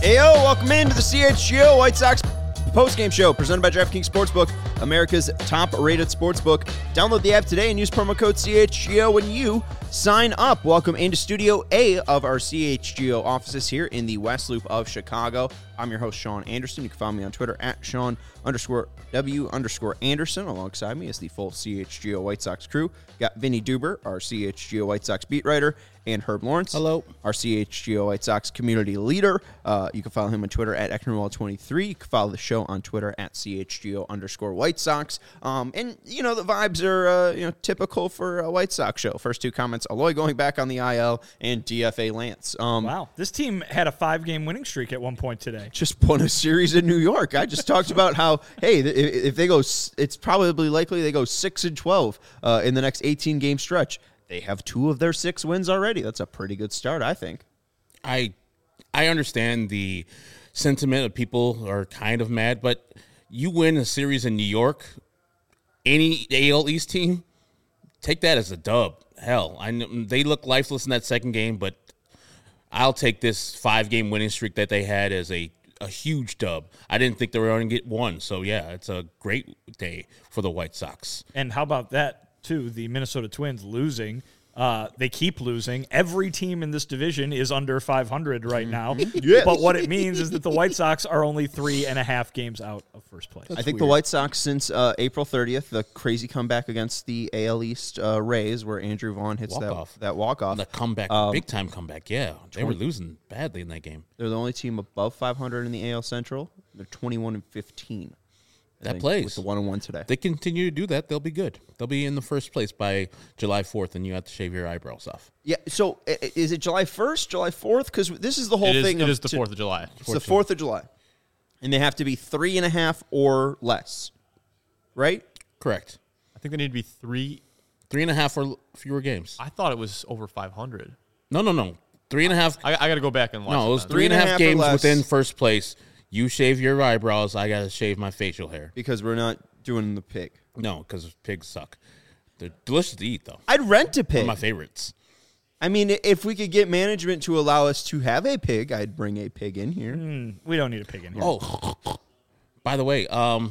Heyo, welcome into the CHGO White Sox postgame show presented by DraftKings Sportsbook, America's top-rated sportsbook. Download the app today and use promo code CHGO when you sign up. Welcome into Studio A of our CHGO offices here in the West Loop of Chicago. I'm your host, Sean Anderson. You can follow me on Twitter at Sean_W_Anderson. Alongside me is the full CHGO White Sox crew. Got Vinny Duber, our CHGO White Sox beat writer, and Herb Lawrence. Hello. Our CHGO White Sox community leader. You can follow him on Twitter at Ecknerwall23. You can follow the show on Twitter at CHGO_White Sox. And, you know, the vibes are, typical for a White Sox show. First two comments, Aloy going back on the IL and DFA Lance. Wow. This team had a 5-game winning streak at one point today. Just won a series in New York. I just talked about how, hey, if they go, it's probably likely they go 6-12 in the next 18-game stretch. They have 2 of their 6 wins already. That's a pretty good start, I think. I understand the sentiment of people are kind of mad, but you win a series in New York, any AL East team, take that as a dub. Hell, I know they look lifeless in that second game, but I'll take this 5-game winning streak that they had as a huge dub. I didn't think they were going to get one, so yeah, it's a great day for the White Sox. And how about that, too? The Minnesota Twins losing. They keep losing. Every team in this division is under 500 right now. Yes. But what it means is that the White Sox are only 3.5 games out of first place. I think the White Sox, since April 30th, the crazy comeback against the AL East Rays, where Andrew Vaughn hits that walk-off. The comeback, big-time comeback, yeah. They were losing badly in that game. They're the only team above 500 in the AL Central. They're 21-15. That plays. With the 1-1 today. They continue to do that, they'll be good. They'll be in the first place by July 4th, and you have to shave your eyebrows off. Yeah, so is it July 1st, July 4th? Because this is the whole thing. It is the 4th of July. It's the 4th of July. And they have to be 3.5 or less, right? Correct. I think they need to be 3. 3.5 or fewer games. I thought it was over 500. No. 3.5. I got to go back and watch. No, it was 3.5 games within first place. You shave your eyebrows, I got to shave my facial hair. Because we're not doing the pig. No, because pigs suck. They're delicious to eat, though. I'd rent a pig. One of my favorites. I mean, if we could get management to allow us to have a pig, I'd bring a pig in here. We don't need a pig in here. Oh, by the way, I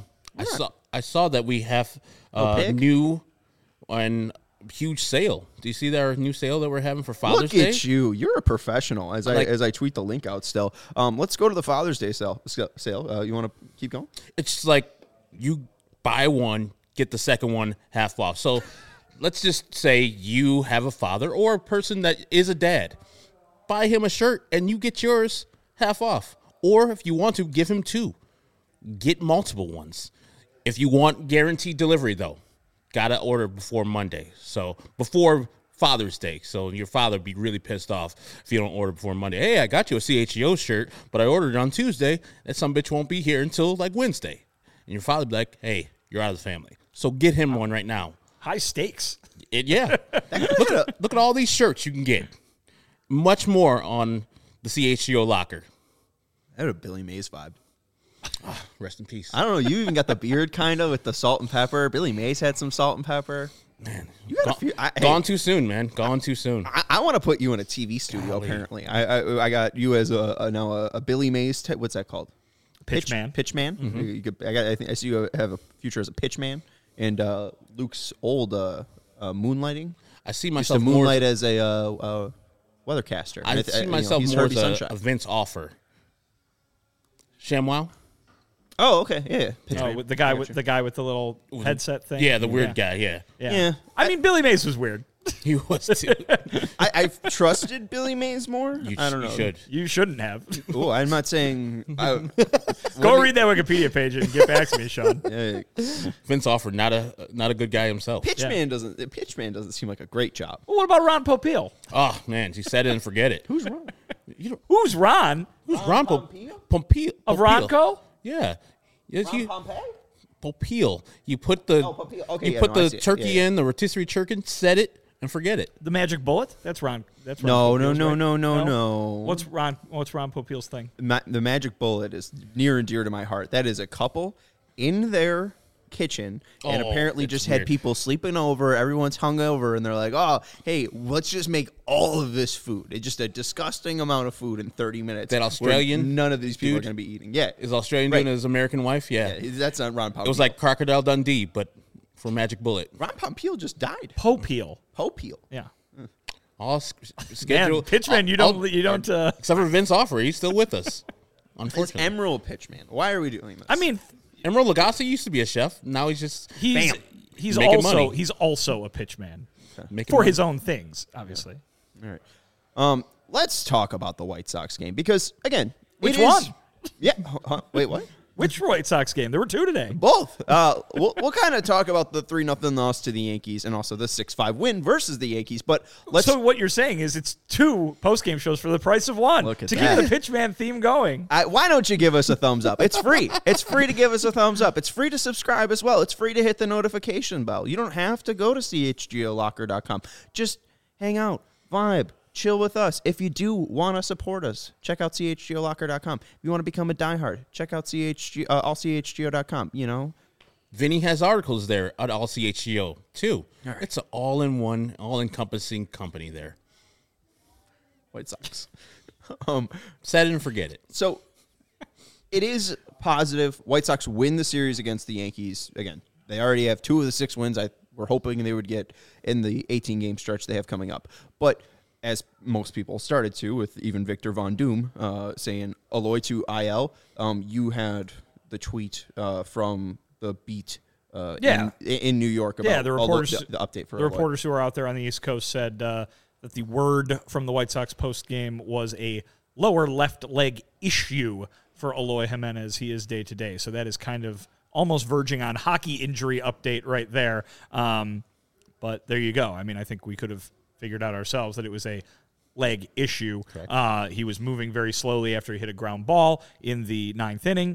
saw that we have a new and huge sale. Do you see our new sale that we're having for Father's Day? Look at you. You're a professional, as I tweet the link out still. Let's go to the Father's Day sale. You want to keep going? It's like you buy one, get the second one half off. So let's just say you have a father or a person that is a dad. Buy him a shirt, and you get yours half off. Or if you want to, give him 2. Get multiple ones. If you want guaranteed delivery, though, got to order before Monday. So before Father's Day. So your father would be really pissed off if you don't order before Monday. Hey, I got you a CHGO shirt, but I ordered it on Tuesday. That some bitch won't be here until like Wednesday. And your father would be like, hey, you're out of the family. So get him one right now. High stakes. Yeah. Look at all these shirts you can get. Much more on the CHGO locker. I had a Billy Mays vibe. Rest in peace. I don't know. You even got the beard kind of with the salt and pepper. Billy Mays had some salt and pepper. Man, you got a few. Gone too soon, man. Gone too soon. I want to put you in a TV studio. Golly. Apparently, I got you as a Billy Mays. What's that called? Pitchman. Pitchman. Mm-hmm. I see you have a future as a pitchman. And Luke's old moonlighting. I see myself used to moonlight as a weathercaster. I see myself more as a Vince Offer. ShamWow. Oh, okay, yeah. Oh, the guy with the little headset thing. Yeah, the weird guy. Yeah. I mean, Billy Mays was weird. He was too. I've trusted Billy Mays more. I don't know. You shouldn't have. Oh, I'm not saying. Go read that Wikipedia page and get back to me, Sean. Vince Offer, not a good guy himself. Pitchman doesn't seem like a great job. Well, what about Ron Popeil? Oh man, he said it and forget it. Who's Ron? Who's Ron? Who's Ron Popeil? Of Ronco? Yeah. Ron Pompey? Popeil. You put the turkey in, the rotisserie chicken, set it, and forget it. The magic bullet? That's Ron. That's Ron. No. What's Ron Popeil's thing? The magic bullet is near and dear to my heart. That is a couple in their kitchen and Oh, apparently it's just weird. had people sleeping over. Everyone's hungover, and they're like, "Oh, hey, let's just make all of this food. It's just a disgusting amount of food in 30 minutes." That where Australian none of these people are dude going to be eating. Yeah, Is Australian Right. doing his American wife? Yeah. yeah, that's not Ron Popeil. It was like Crocodile Dundee, but for Magic Bullet. Ron Popeil just died. Popeil. Popeil. Yeah. All Man, scheduled. pitchman, you don't. Except for Vince Offer, he's still with us. It's Unfortunately, Emerald Pitchman. Why are we doing this? I mean, Emerald Lagasse used to be a chef. Now he's just he's bam, he's making also money. he's also a pitchman making for money. his own things, obviously. all right. Let's talk about the White Sox game because again, Which it is- one? Yeah. Wait, what? Which White Sox game? There were two today. Both. We'll kind of talk about the 3-0 loss to the Yankees and also the 6-5 win versus the Yankees. But let's. So what you're saying is it's two post-game shows for the price of one. Look at to that. keep the pitchman theme going. Why don't you give us a thumbs up? It's free. It's free to give us a thumbs up. It's free to subscribe as well. It's free to hit the notification bell. You don't have to go to chgolocker.com. Just hang out, vibe, chill with us. If you do want to support us, check out chgolocker.com. If you want to become a diehard, check out allchgo.com. You know, Vinny has articles there at All CHGO too. It's an all-in-one, all-encompassing company there. White Sox. Set it and forget it. So it is positive. White Sox win the series against the Yankees. Again, they already have 2 of the 6 wins we're hoping they would get in the 18-game stretch they have coming up. But as most people started to, with even Victor Von Doom saying Aloy to IL, you had the tweet from the beat in New York about the reporters, the update for the Aloy. reporters who are out there on the East Coast said that the word from the White Sox post-game was a lower left leg issue for Aloy Jimenez. He is day-to-day, so that is kind of almost verging on hockey injury update right there. But there you go. I mean, I think we could have figured out ourselves that it was a leg issue. He was moving very slowly after he hit a ground ball in the 9th inning.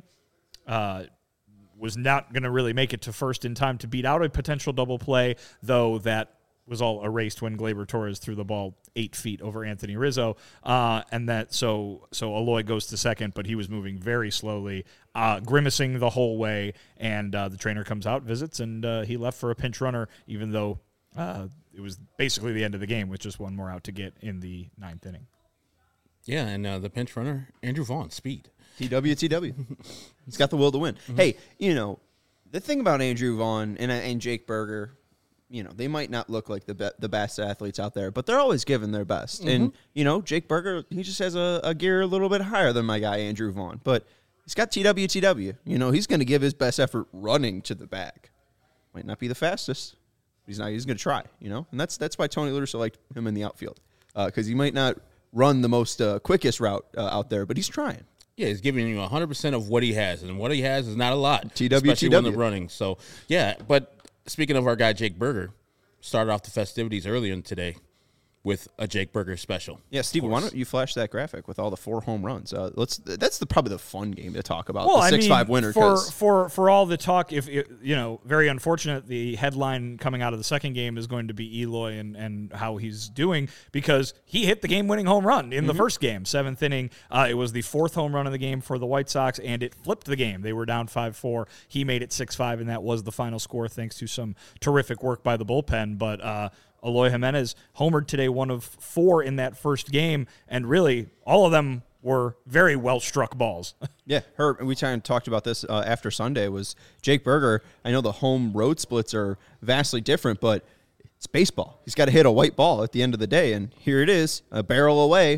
Was not going to really make it to first in time to beat out a potential double play, though that was all erased when Gleyber Torres threw the ball 8 feet over Anthony Rizzo. And that so Aloy goes to second, but he was moving very slowly, grimacing the whole way. And the trainer comes out, visits, and he left for a pinch runner, even though it was basically the end of the game with just one more out to get in the 9th inning. Yeah, and the pinch runner, Andrew Vaughn, speed. TW. He's got the will to win. Hey, the thing about Andrew Vaughn and Jake Berger, they might not look like the best athletes out there, but they're always giving their best. And, Jake Berger, he just has a gear a little bit higher than my guy, Andrew Vaughn. But he's got TW. He's going to give his best effort running to the bag. Might not be the fastest. He's going to try, And that's why Tony La Russa liked him in the outfield. Because he might not run the most quickest route out there, but he's trying. Yeah, he's giving you 100% of what he has, and what he has is not a lot, TW. especially when they're running. So, yeah, but speaking of our guy Jake Berger, started off the festivities earlier today with a Jake Berger special. Yeah, Steve, why don't you flash that graphic with all the 4 home runs? That's probably the fun game to talk about. Well, the 6-5 winner. For all the talk, if very unfortunate, the headline coming out of the second game is going to be Eloy and how he's doing, because he hit the game-winning home run in the first game, 7th inning. It was the 4th home run of the game for the White Sox, and it flipped the game. They were down 5-4. He made it 6-5, and that was the final score thanks to some terrific work by the bullpen. But Aloy Jimenez homered today, 1 of 4 in that first game, and really all of them were very well-struck balls. Yeah, we kind of talked about this after Sunday, was Jake Berger. I know the home road splits are vastly different, but it's baseball. He's got to hit a white ball at the end of the day, and here it is, a barrel away.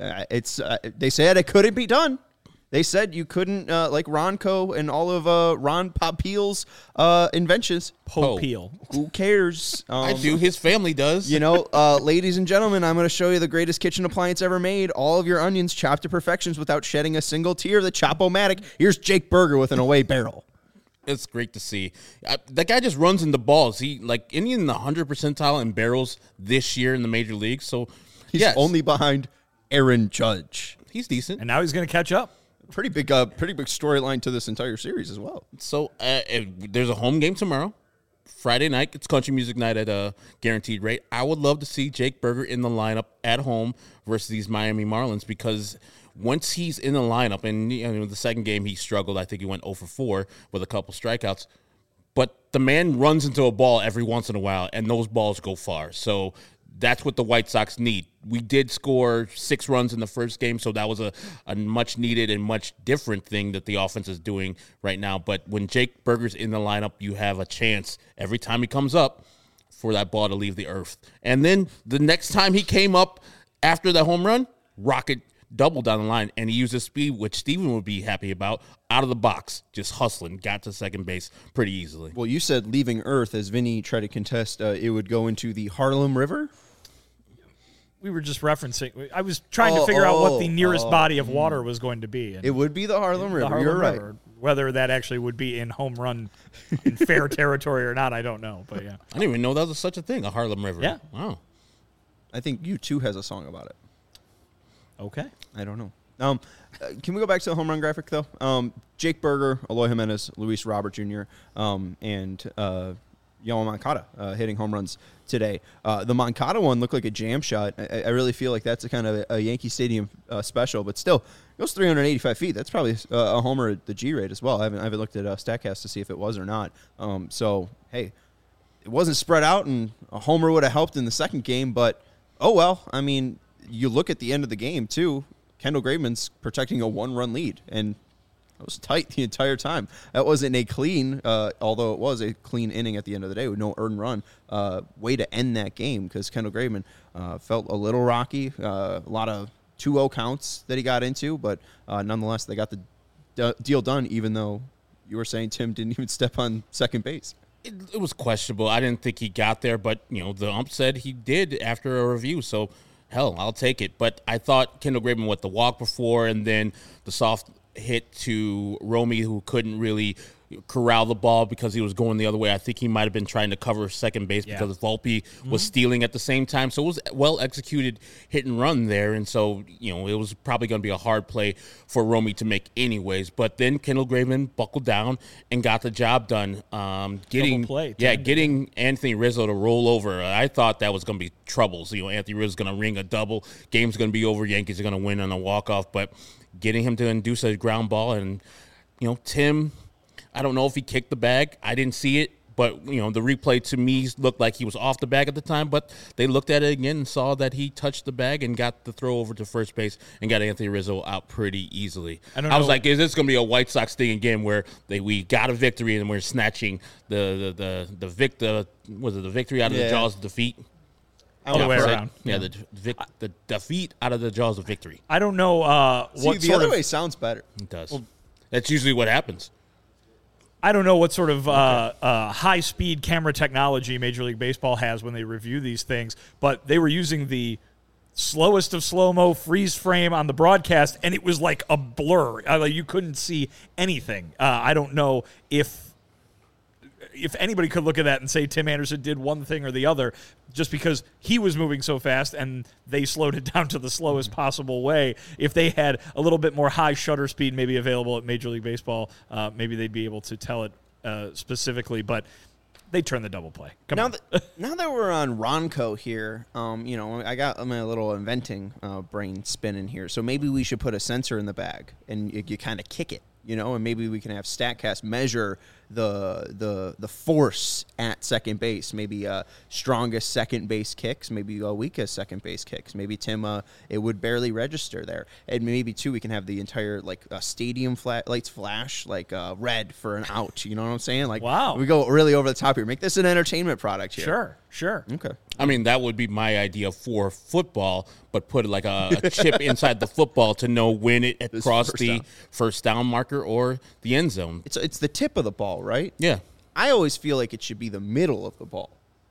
They said it couldn't be done. They said you couldn't, like Ronco and all of Ron Popeil's inventions. Popeil. Who cares? I do. His family does. Ladies and gentlemen, I'm going to show you the greatest kitchen appliance ever made. All of your onions chopped to perfections without shedding a single tear. The Chop-O-Matic. Here's Jake Berger with an away barrel. It's great to see. That guy just runs into balls. He in the 100th percentile in barrels this year in the major leagues. So He's only behind Aaron Judge. he's decent. And now he's going to catch up. Pretty big storyline to this entire series as well. So there's a home game tomorrow, Friday night. It's country music night at a guaranteed rate. I would love to see Jake Berger in the lineup at home versus these Miami Marlins, because once he's in the lineup, and the second game he struggled. I think he went 0 for 4 with a couple strikeouts. but the man runs into a ball every once in a while, and those balls go far. So that's what the White Sox need. We did score 6 runs in the first game, so that was a much needed and much different thing that the offense is doing right now. But when Jake Burger's in the lineup, you have a chance every time he comes up for that ball to leave the earth. And then the next time he came up after the home run, rocket double down the line, and he used his speed, which Steven would be happy about, out of the box, just hustling, got to second base pretty easily. Well, you said leaving Earth, as Vinny tried to contest, it would go into the Harlem River? We were just referencing. I was trying to figure out what the nearest body of water was going to be. And It would be the Harlem River. the Harlem You're right. River. Whether that actually would be in home run, in fair territory or not, I don't know. But yeah. I didn't even know that was such a thing, a Harlem River. Yeah. Wow. I think U2 has a song about it. Okay. I don't know. Can we go back to the home run graphic, though? Jake Burger, Eloy Jimenez, Luis Robert Jr., and Yoan Moncada hitting home runs today. The Moncada one looked like a jam shot. I really feel like that's a kind of a Yankee Stadium special, but still, it goes 385 feet. That's probably a homer at the G-rate as well. I haven't looked at StatCast to see if it was or not. So, hey, it wasn't spread out, and a homer would have helped in the second game, but oh well. I mean, you look at the end of the game, too. Kendall Graveman's protecting a 1-run lead, and it was tight the entire time. That wasn't a clean, although it was a clean inning at the end of the day with no earned run, way to end that game because Kendall Graveman felt a little rocky. A lot of 2-0 counts that he got into, but nonetheless, they got the deal done, even though you were saying Tim didn't even step on second base. It was questionable. I didn't think he got there, but, the ump said he did after a review, so hell, I'll take it. But I thought Kendall Graveman with the walk before and then the soft hit to Romy, who couldn't really corral the ball because he was going the other way. I think he might have been trying to cover second base because Volpe was stealing at the same time. So it was well executed hit and run there. And so, it was probably going to be a hard play for Romy to make anyways. But then Kendall Graveman buckled down and got the job done. Getting Anthony Rizzo to roll over. I thought that was going to be troubles. Anthony Rizzo's going to ring a double. Game's going to be over. Yankees are going to win on a walk-off. But getting him to induce a ground ball and, Tim, I don't know if he kicked the bag. I didn't see it, but, the replay to me looked like he was off the bag at the time, but they looked at it again and saw that he touched the bag and got the throw over to first base and got Anthony Rizzo out pretty easily. I was like, is this going to be a White Sox thing again where we got a victory and we're snatching the victory out of the jaws of defeat? All the way around. Yeah, the defeat out of the jaws of victory. I don't know the other way sounds better. It does. Well, that's usually what happens. I don't know what sort of high-speed camera technology Major League Baseball has when they review these things, but they were using the slowest of slow-mo freeze frame on the broadcast, and it was like a blur. You couldn't see anything. I don't know if anybody could look at that and say Tim Anderson did one thing or the other just because he was moving so fast and they slowed it down to the slowest possible way. If they had a little bit more high shutter speed maybe available at Major League Baseball, maybe they'd be able to tell it specifically, but they turned the double play. Now that we're on Ronco here, I got my little inventing brain spinning here, so maybe we should put a sensor in the bag and you kind of kick it. And maybe we can have StatCast measure the force at second base. Maybe strongest second base kicks, maybe weakest second base kicks. Maybe Tim, it would barely register there. And maybe too, we can have the entire stadium lights flash red for an out. You know what I'm saying? Wow, we go really over the top here. Make this an entertainment product here. Sure. Okay. I mean, that would be my idea for football, but put a chip inside the football to know when it crossed the first down marker or the end zone. It's the tip of the ball, right? Yeah. I always feel like it should be the middle of the ball.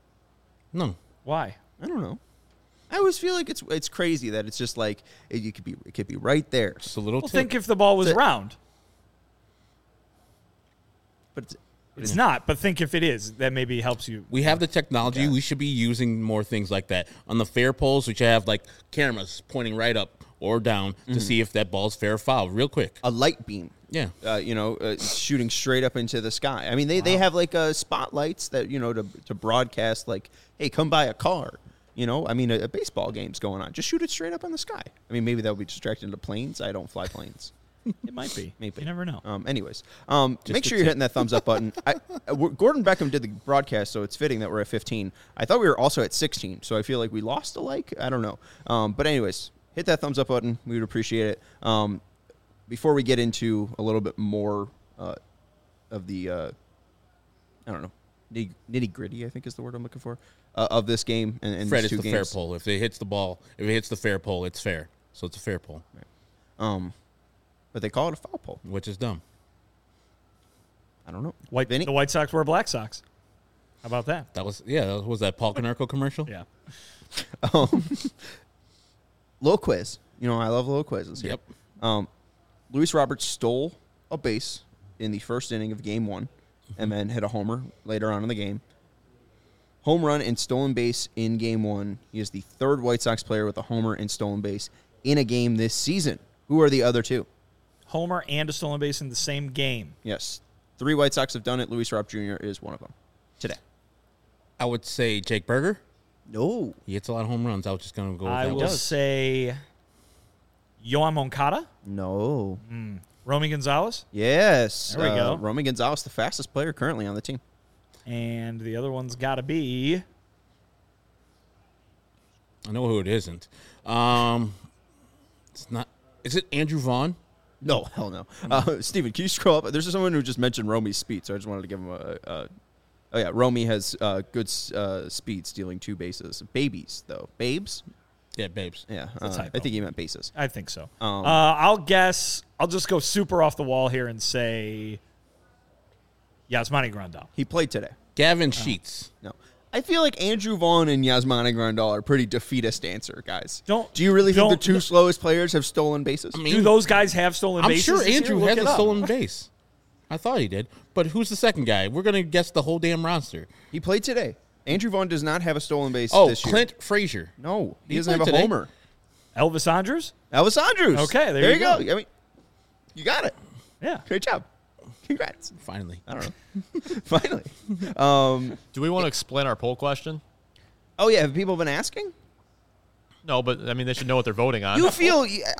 No. Why? I don't know. I always feel like it's crazy that it's just like it could be right there. It's a little tip. Think if the ball was round. But it's not, but think if it is, that maybe helps you. We have the technology. Yeah. We should be using more things like that. On the fair poles, we should have cameras pointing right up or down to see if that ball's fair or foul real quick. A light beam. Yeah. Shooting straight up into the sky. I mean, they have spotlights that, to broadcast hey, come by a car. I mean, a baseball game's going on. Just shoot it straight up in the sky. I mean, maybe that would be distracting to planes. I don't fly planes. It might be. Maybe. You never know. Anyways, make sure you're hitting that thumbs up button. Gordon Beckham did the broadcast, so it's fitting that we're at 15. I thought we were also at 16, so I feel like we lost a like. I don't know. But anyways, hit that thumbs up button. We would appreciate it. Before we get into a little bit more of the, I don't know, nitty gritty, I think is the word I'm looking for, of this game and Fred, these it's two the fair games. pull. If it hits the ball, if it hits the fair pull, it's fair. So it's a fair pull, But they call it a foul pull. which is dumb. I don't know. The White Sox wear black socks. How about that? That was was that Paul Canarco commercial? Yeah. Little quiz. You know, I love little quizzes here. Yep. Luis Roberts stole a base in the first inning of Game 1 and then hit a homer later on in the game. Home run and stolen base in Game 1. He is the third White Sox player with a homer and stolen base in a game this season. Who are the other two? Homer and a stolen base in the same game. Yes. 3 White Sox have done it. Luis Robert Jr. is one of them today. I would say Jake Berger. No. He hits a lot of home runs. I was just going to go with I that will one. say Yoan Moncada, No. Romy Gonzalez, Yes. There we go. Romy Gonzalez, the fastest player currently on the team. and the other one's got to be I know who it isn't. It's not. Is it Andrew Vaughn? No, hell no. Steven, can you scroll up? There's someone who just mentioned Romy's speed, so I just wanted to give him a oh, yeah. Romy has good speed, stealing 2 bases. Babies, though. Babes? Yeah, Babes. Yeah. a typo. I think he meant bases. I think so. I'll guess. I'll just go super off the wall here and say Yasmani Grandal. He played today. Gavin Sheets. No. I feel like Andrew Vaughn and Yasmani Grandal are pretty defeatist answer, guys. Don't- Do you really think the don't- 2 slowest players have stolen bases? I mean, Do those guys have stolen I'm bases? sure this year? Andrew Look has it a up. stolen base. I thought he did. But who's the second guy? We're going to guess the whole damn roster. He played today. Andrew Vaughn does not have a stolen base Oh, this year. Clint Frazier. No, he He doesn't have a played today. homer. Elvis Andrews? Elvis Andrews. Okay, there you you go. go. I mean, you got it. Yeah. Great job. Congrats. Finally. I don't know. Finally. Do we want to explain our poll question? Oh, yeah. Have people been asking? No, but I mean they should know what they're voting on. You feel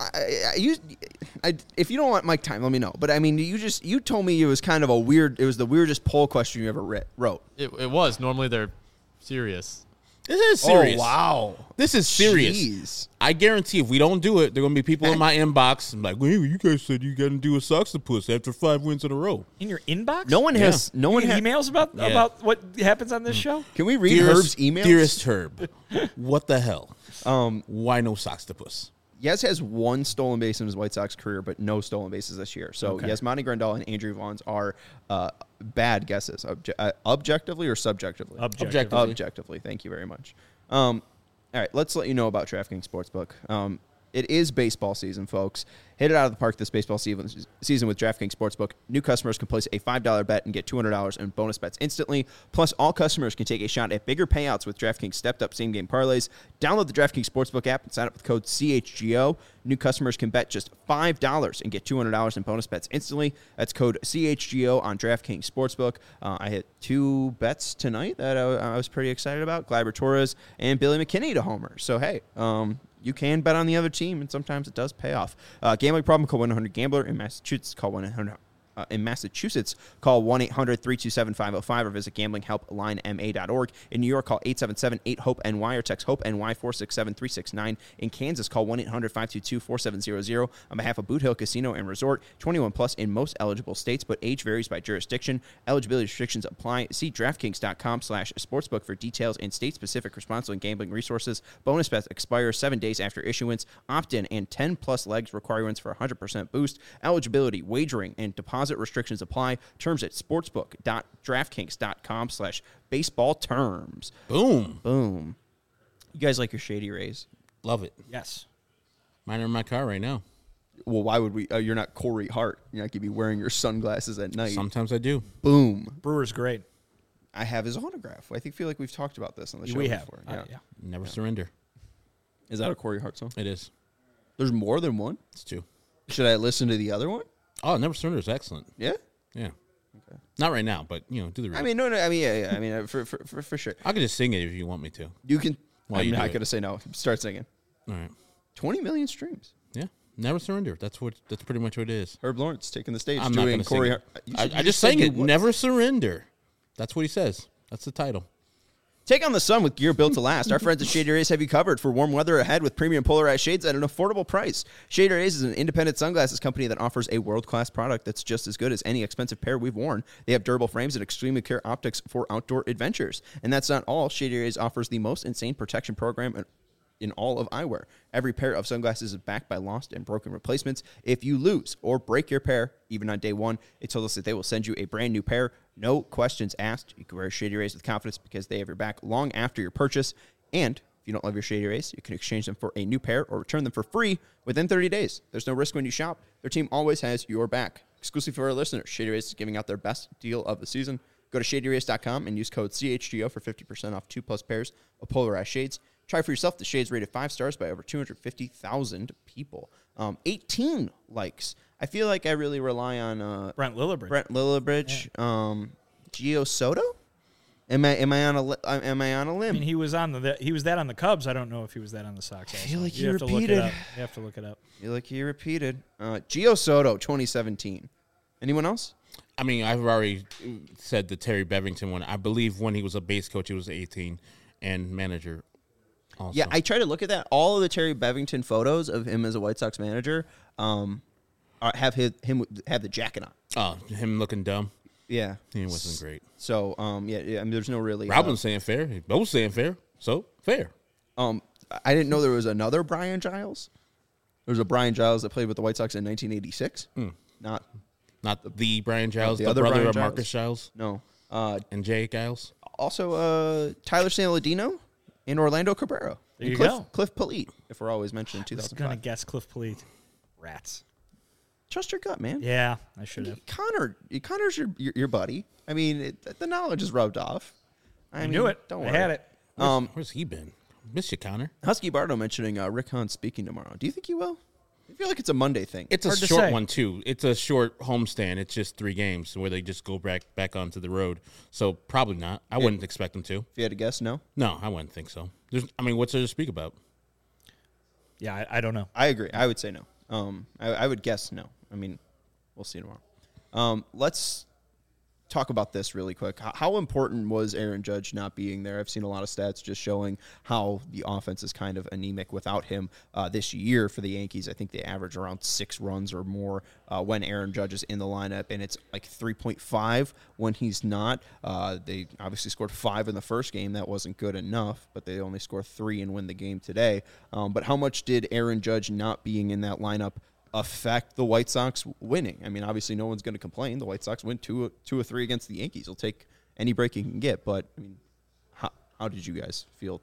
if you don't want mic time, let me know. But I mean, you told me it was kind of a weird. It was the weirdest poll question you ever wrote. It was. Normally they're serious. This is serious. Oh wow, This is serious. Jeez. I guarantee if we don't do it, there are going to be people in my inbox and like, well, you guys said you got to do a Soxtopus after 5 wins in a row. In your inbox? No one has. No You one get has. emails about what happens on this show? Can we read Herb's emails? Dearest Herb, what the hell? Why no Soxtopus? Yes has 1 stolen base in his White Sox career, but no stolen bases this year. So Okay. Yasmani Grandal and Andrew Vaughn are bad guesses, objectively or subjectively. Objectively. Objectively. Thank you very much. All right, let's let you know about DraftKings Sportsbook. It is baseball season, folks. Hit it out of the park this baseball season with DraftKings Sportsbook. New customers can place a $5 bet and get $200 in bonus bets instantly. Plus, all customers can take a shot at bigger payouts with DraftKings stepped-up same-game parlays. Download the DraftKings Sportsbook app and sign up with code CHGO. New customers can bet just $5 and get $200 in bonus bets instantly. That's code CHGO on DraftKings Sportsbook. I hit 2 bets tonight that I was pretty excited about. Gleyber Torres and Billy McKinney to homer. So, hey, you can bet on the other team, and sometimes it does pay off. Gambling problem, call 1-800-GAMBLER. In Massachusetts, call 1-800. Call 1-800-327-505 or visit gamblinghelplinema.org. In New York, call 877-8-HOPE-NY or text HOPE-NY 467-369. In Kansas, call 1-800-522-4700. On behalf of Boot Hill Casino and Resort, 21 plus in most eligible states, but age varies by jurisdiction. Eligibility restrictions apply. See DraftKings.com/sportsbook for details and state-specific responsible gambling resources. Bonus bets expire 7 days after issuance. Opt-in and 10 plus legs requirements for 100% boost. Eligibility, wagering, and deposit restrictions apply. Terms at sportsbook.draftkings.com/baseball terms. Boom. Boom. You guys like your Shady Rays? Love it. Yes. Mine are in my car right now. Well, why would we? You're not Corey Hart. You're not going to be wearing your sunglasses at night. Sometimes I do. Boom. Brewer's great. I have his autograph. I feel like we've talked about this on the show We have. before. Yeah. Never surrender. Is that a Corey Hart song? It is. There's more than one? It's 2. Should I listen to the other one? Oh, Never Surrender is excellent. Yeah? Yeah. Okay. Not right now, but, do the read. I mean, no. I mean, yeah. I mean, for sure. I could just sing it if you want me to. You can. While I'm you not do going to it. say no. Start singing. All right. 20 million streams. Yeah. Never surrender. That's pretty much what it is. Herb Lawrence taking the stage. I'm not doing going to sing Corey. it. I just sang it. Never surrender. That's what he says. That's the title. Take on the sun with gear built to last. Our friends at Shady Rays have you covered for warm weather ahead with premium polarized shades at an affordable price. Shady Rays is an independent sunglasses company that offers a world-class product that's just as good as any expensive pair we've worn. They have durable frames and extremely clear optics for outdoor adventures. And that's not all. Shady Rays offers the most insane protection program in all of eyewear. Every pair of sunglasses is backed by lost and broken replacements. If you lose or break your pair, even on day one, they told us that they will send you a brand new pair. No questions asked. You can wear Shady Rays with confidence because they have your back long after your purchase. And if you don't love your Shady Rays, you can exchange them for a new pair or return them for free within 30 days. There's no risk when you shop. Their team always has your back. Exclusive for our listeners, Shady Rays is giving out their best deal of the season. Go to shadyrays.com and use code CHGO for 50% off 2+ pairs of polarized shades. Try for yourself. The shades rated 5 stars by over 250,000 people. 18 likes. I feel like I really rely on Brent Lillibridge. Gio Soto. Am I on a limb? I mean, he was that on the Cubs. I don't know if he was that on the Sox. I feel like he have to look repeated. it up. You have to look it up. I feel like he repeated. Gio Soto, 2017. Anyone else? I mean, I've already said the Terry Bevington one. I believe when he was a base coach, he was 18 and manager. Also. Yeah, I try to look at that. All of the Terry Bevington photos of him as a White Sox manager have him have the jacket on. Oh, him looking dumb. Yeah, He wasn't great. So yeah, I mean, there's no really. Robin's saying fair. Both saying fair. So fair. I didn't know there was another Brian Giles. There was a Brian Giles that played with the White Sox in 1986. Not the Brian Giles, the the other brother Brian of Giles? Marcus Giles no. and Jay Giles. Also, Tyler Saladino and Orlando Cabrera. There And you Cliff, go. Cliff Polite, if we're always mentioning I was going to 2005. guess Cliff Polite. Rats. Trust your gut, man. Yeah, I should have. Connor's your buddy. I mean, the knowledge is rubbed off. I knew it. Don't I worry. had it. Where's he been? Miss you, Connor. Husky Bardo mentioning Rick Hahn speaking tomorrow. Do you think he will? I feel like it's a Monday thing. It's a Hard to short say. one too. It's a short homestand. It's just 3 games where they just go back onto the road. So probably not. I wouldn't expect them to. If you had to guess, no? No, I wouldn't think so. What's there to speak about? Yeah, I don't know. I agree. I would say no. I would guess no. I mean, we'll see tomorrow. Let's talk about this really quick. How important was Aaron Judge not being there? I've seen a lot of stats just showing how the offense is kind of anemic without him this year for the Yankees. I think they average around 6 runs or more when Aaron Judge is in the lineup, and it's like 3.5 when he's not. They obviously scored 5 in the first game. That wasn't good enough, but they only scored 3 and win the game today. But how much did Aaron Judge not being in that lineup affect the White Sox winning? I mean, obviously no one's going to complain. The White Sox win 2 or 3 against the Yankees. They'll take any break you can get. But I mean, how did you guys feel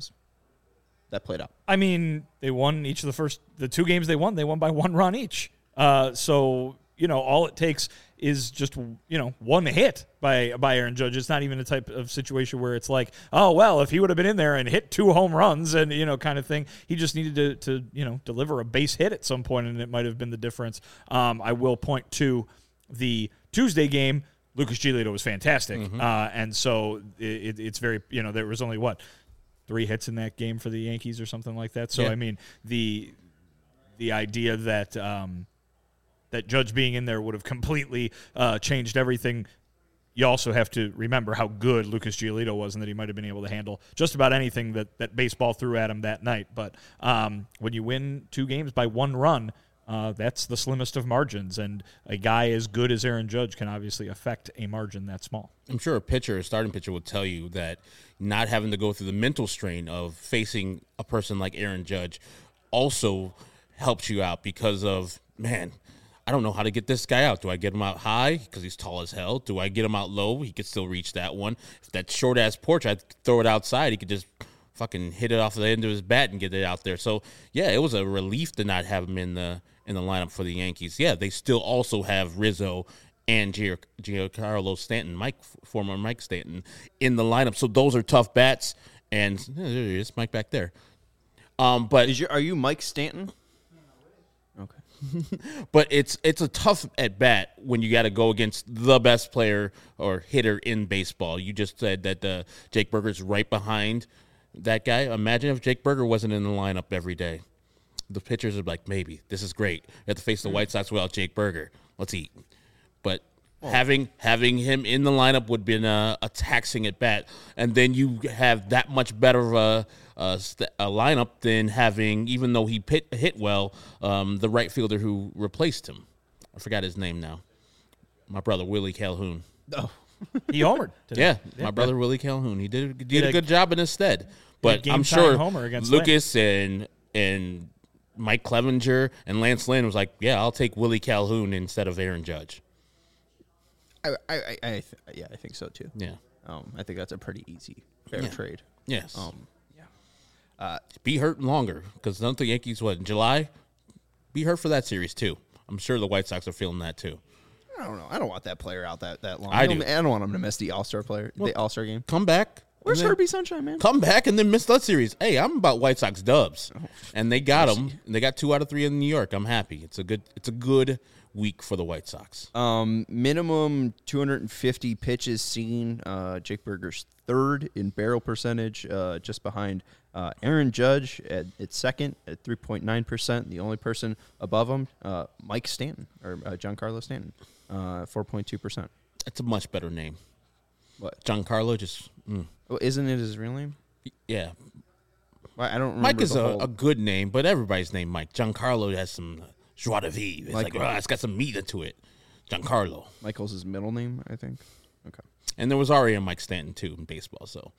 that played out? I mean, they won each of the 2 games they won by 1 run each. So, all it takes is just, 1 hit by Aaron Judge. It's not even a type of situation where it's like, oh, well, if he would have been in there and hit 2 home runs and, kind of thing, he just needed to deliver a base hit at some point, and it might have been the difference. I will point to the Tuesday game. Lucas Giolito was fantastic. And so it's very, there was only 3 hits in that game for the Yankees or something like that. So, Yeah. I mean, the idea that that Judge being in there would have completely changed everything. You also have to remember how good Lucas Giolito was and that he might have been able to handle just about anything that baseball threw at him that night. But when you win 2 games by 1 run, that's the slimmest of margins. And a guy as good as Aaron Judge can obviously affect a margin that small. I'm sure a starting pitcher will tell you that not having to go through the mental strain of facing a person like Aaron Judge also helps you out because of, man, I don't know how to get this guy out. Do I get him out high because he's tall as hell? Do I get him out low? He could still reach that one. If that short-ass porch, I'd throw it outside. He could just fucking hit it off the end of his bat and get it out there. So, yeah, it was a relief to not have him in the lineup for the Yankees. Yeah, they still also have Rizzo and Giancarlo Stanton, former Mike Stanton, in the lineup. So those are tough bats. And there he is, Mike back there. But Are you Mike Stanton? Okay. But it's a tough at bat when you got to go against the best player or hitter in baseball. You just said that Jake Burger's right behind that guy. Imagine if Jake Burger wasn't in the lineup every day. The pitchers are like, maybe this is great. You have to face the White Sox without Jake Berger. Let's eat. But having him in the lineup would have been a taxing at bat, and then you have that much better of a lineup than having, even though he hit well, the right fielder who replaced him. I forgot his name now. My brother Willie Calhoun. Oh, He homered today. Yeah, my brother Willie Calhoun. He did a good job in his stead. But I'm game-time sure homer against Lucas and Mike Clevenger and Lance Lynn was like, yeah, I'll take Willie Calhoun instead of Aaron Judge. I think so too. Yeah. I think that's a pretty easy fair trade. Yes. Be hurt longer because don't the Yankees, in July? Be hurt for that series too. I'm sure the White Sox are feeling that too. I don't know. I don't want that player out that long. I do. I don't want him to miss the All-Star game. Come back. Where's and then- Herbie Sunshine, man? Come back and then miss that series. Hey, I'm about White Sox dubs, and they got them. They got 2 out of 3 in New York. I'm happy. It's a good week for the White Sox. Minimum 250 pitches seen. Jake Berger's third in barrel percentage, just behind Aaron Judge at second at 3.9%. The only person above him, Mike Stanton or Giancarlo Stanton, 4.2%. That's a much better name. What? Giancarlo just. Well, isn't it his real name? Yeah. I don't remember. Mike is the whole- a good name, but everybody's named Mike. Giancarlo has some joie de vivre. It's it's got some meat into it. Giancarlo. Michael's his middle name, I think. Okay. And there was already a Mike Stanton, too, in baseball, so.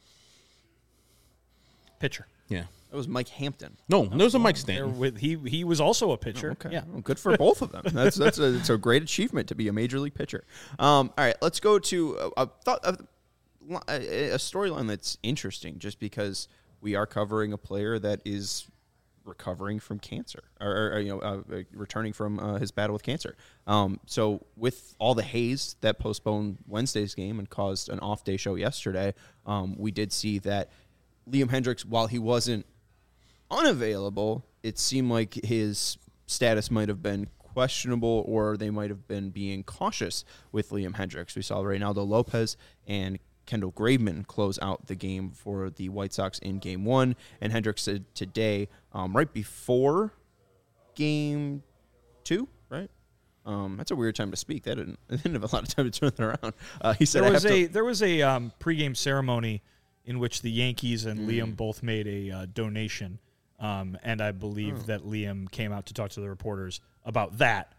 Pitcher. Yeah. That was Mike Hampton. No, there was a Mike Stanton. He was also a pitcher. Okay. Yeah. Well, good for both of them. It's a great achievement to be a major league pitcher. All right, let's go to a storyline that's interesting, just because we are covering a player that is recovering from cancer, or returning from his battle with cancer. So with all the haze that postponed Wednesday's game and caused an off-day show yesterday, we did see that Liam Hendriks, while he wasn't unavailable, it seemed like his status might have been questionable, or they might have been being cautious with Liam Hendriks. We saw Reynaldo Lopez and Kendall Graveman close out the game for the White Sox in Game 1, and Hendriks said today, right before Game 2, right? That's a weird time to speak. They didn't have a lot of time to turn that around. He said there was a pregame ceremony in which the Yankees and Liam both made a donation, and I believe that Liam came out to talk to the reporters about that,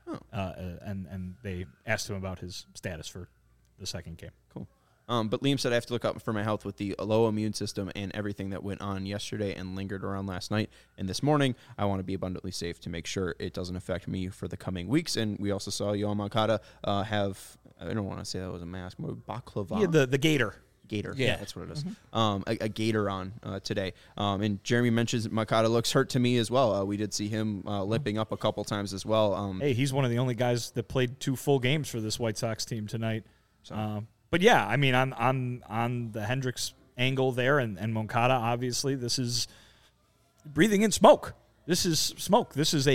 and they asked him about his status for the second game. Cool. But Liam said, I have to look out for my health with the low immune system and everything that went on yesterday and lingered around last night and this morning. I want to be abundantly safe to make sure it doesn't affect me for the coming weeks. And we also saw Yoan Moncada have, I don't want to say that was a mask, more baklava. Yeah, the gator. Gator. Yeah. That's what it is. A gator on today. And Jeremy mentions Moncada looks hurt to me as well. We did see him limping up a couple times as well. Hey, he's one of the only guys that played 2 full games for this White Sox team tonight. But yeah, I mean, on the Hendriks angle there, and Moncada, obviously, this is breathing in smoke. This is smoke. This is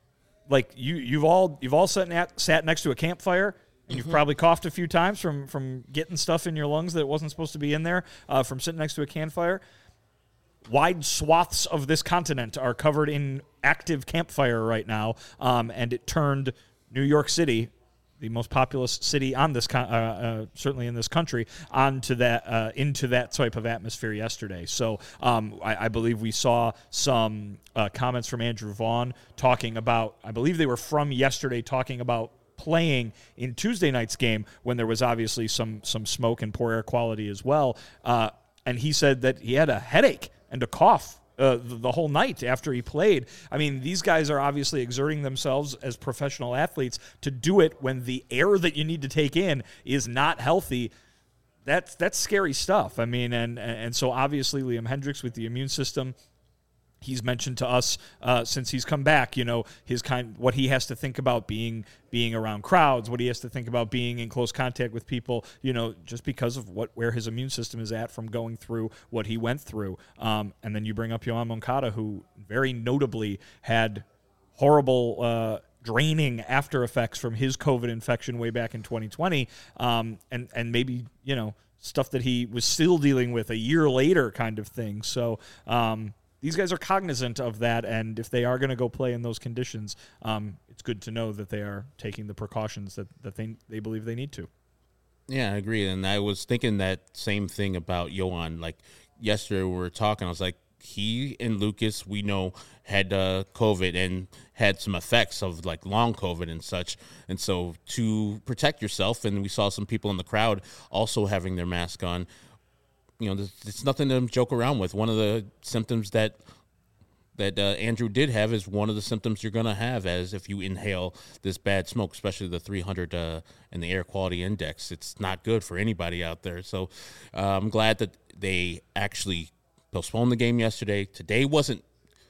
you've all sat next to a campfire, and you've probably coughed a few times from getting stuff in your lungs that wasn't supposed to be in there from sitting next to a campfire. Wide swaths of this continent are covered in active campfire right now, and it turned New York City, the most populous city on this, certainly in this country, into that type of atmosphere yesterday. So I believe we saw some comments from Andrew Vaughn talking about, I believe they were from yesterday, talking about playing in Tuesday night's game when there was obviously some smoke and poor air quality as well. And he said that he had a headache and a cough the whole night after he played. I mean, these guys are obviously exerting themselves as professional athletes to do it when the air that you need to take in is not healthy. That's scary stuff. I mean, and so obviously Liam Hendriks with the immune system, he's mentioned to us since he's come back, what he has to think about being around crowds, what he has to think about being in close contact with people, just because of where his immune system is at from going through what he went through. And then you bring up Yoan Moncada, who very notably had horrible draining after effects from his COVID infection way back in 2020, and maybe stuff that he was still dealing with a year later, kind of thing. So these guys are cognizant of that, and if they are going to go play in those conditions, it's good to know that they are taking the precautions that they believe they need to. Yeah, I agree. And I was thinking that same thing about Yohan. Like yesterday we were talking, I was like, he and Lucas, we know, had COVID and had some effects of like long COVID and such. And so to protect yourself, and we saw some people in the crowd also having their mask on, it's nothing to joke around with. One of the symptoms that Andrew did have is one of the symptoms you're going to have as if you inhale this bad smoke, especially the 300 and the air quality index. It's not good for anybody out there. So I'm glad that they actually postponed the game yesterday. Today wasn't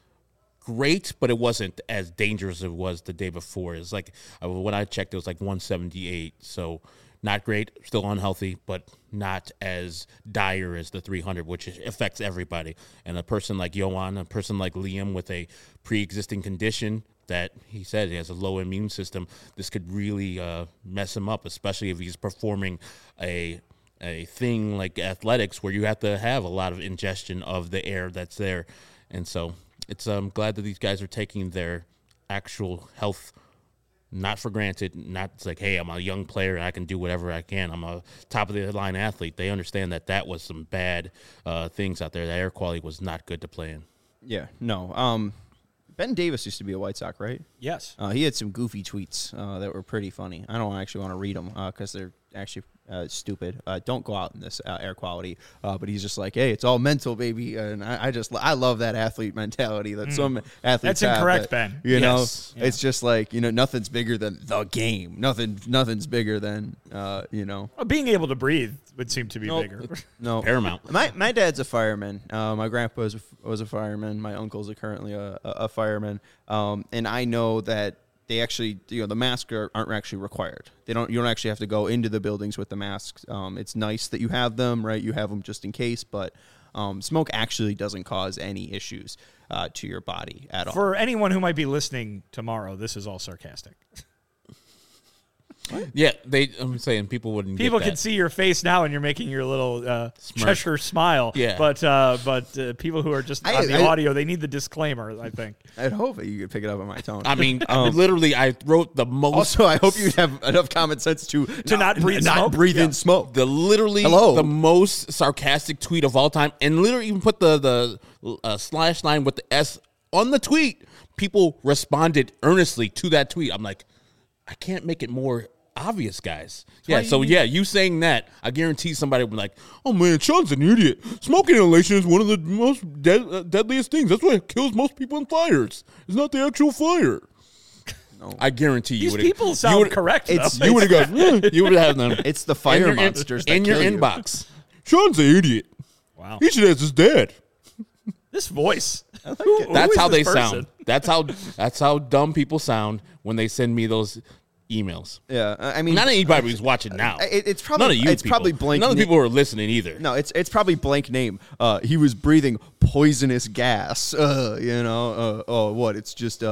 great, but it wasn't as dangerous as it was the day before. It's like when I checked, it was like 178. So not great, still unhealthy, but not as dire as the 300, which affects everybody. And a person like Yohan, a person like Liam with a pre-existing condition that he said he has a low immune system, this could really mess him up, especially if he's performing a thing like athletics where you have to have a lot of ingestion of the air that's there. And so I'm glad that these guys are taking their actual health not for granted, not it's like, hey, I'm a young player and I can do whatever I can. I'm a top-of-the-line athlete. They understand that was some bad things out there. The air quality was not good to play in. Yeah, no. Ben Davis used to be a White Sox, right? Yes. He had some goofy tweets that were pretty funny. I don't actually want to read them because they're actually stupid. Don't go out in this air quality. But he's just like, hey, it's all mental, baby. And I love that athlete mentality that some athletes That's incorrect, have. Ben. You know, Yes. it's just like, nothing's bigger than the game. Nothing's bigger than, Well, being able to breathe would seem to be bigger. No. Paramount. My dad's a fireman. My grandpa was a fireman. My uncle's currently a fireman. And I know that they actually, the masks aren't actually required. You don't actually have to go into the buildings with the masks. It's nice that you have them, right? You have them just in case, but smoke actually doesn't cause any issues to your body at all. For anyone who might be listening tomorrow, this is all sarcastic. Yeah, I'm saying people wouldn't People get that. can see your face now, and you're making your little Cheshire smile. Yeah. But people who are just on the audio, they need the disclaimer, I think. I'd hope that you could pick it up on my tone. I mean, literally, I wrote the most. Also, I hope you'd have enough common sense to not breathe smoke? Not breathe in smoke. The most sarcastic tweet of all time, and literally even put the slash line with the S on the tweet. People responded earnestly to that tweet. I'm like, I can't make it more obvious, guys. You saying that, I guarantee somebody would be like, oh man, Sean's an idiot. Smoke inhalation is one of the most deadliest things. That's why it kills most people in fires. It's not the actual fire. No. I guarantee you These would. people sound correct. You would have gone. You would have them. It's the fire monsters that in your kill you. inbox. Sean's an idiot. Wow. He should ask his dad. This voice. That's how they sound. That's how dumb people sound when they send me those emails. Yeah, I mean, not anybody who's watching now. It's probably none of you. It's people. probably blank. None of the people who are listening either. No, it's probably blank name. He was breathing poisonous gas. What? It's just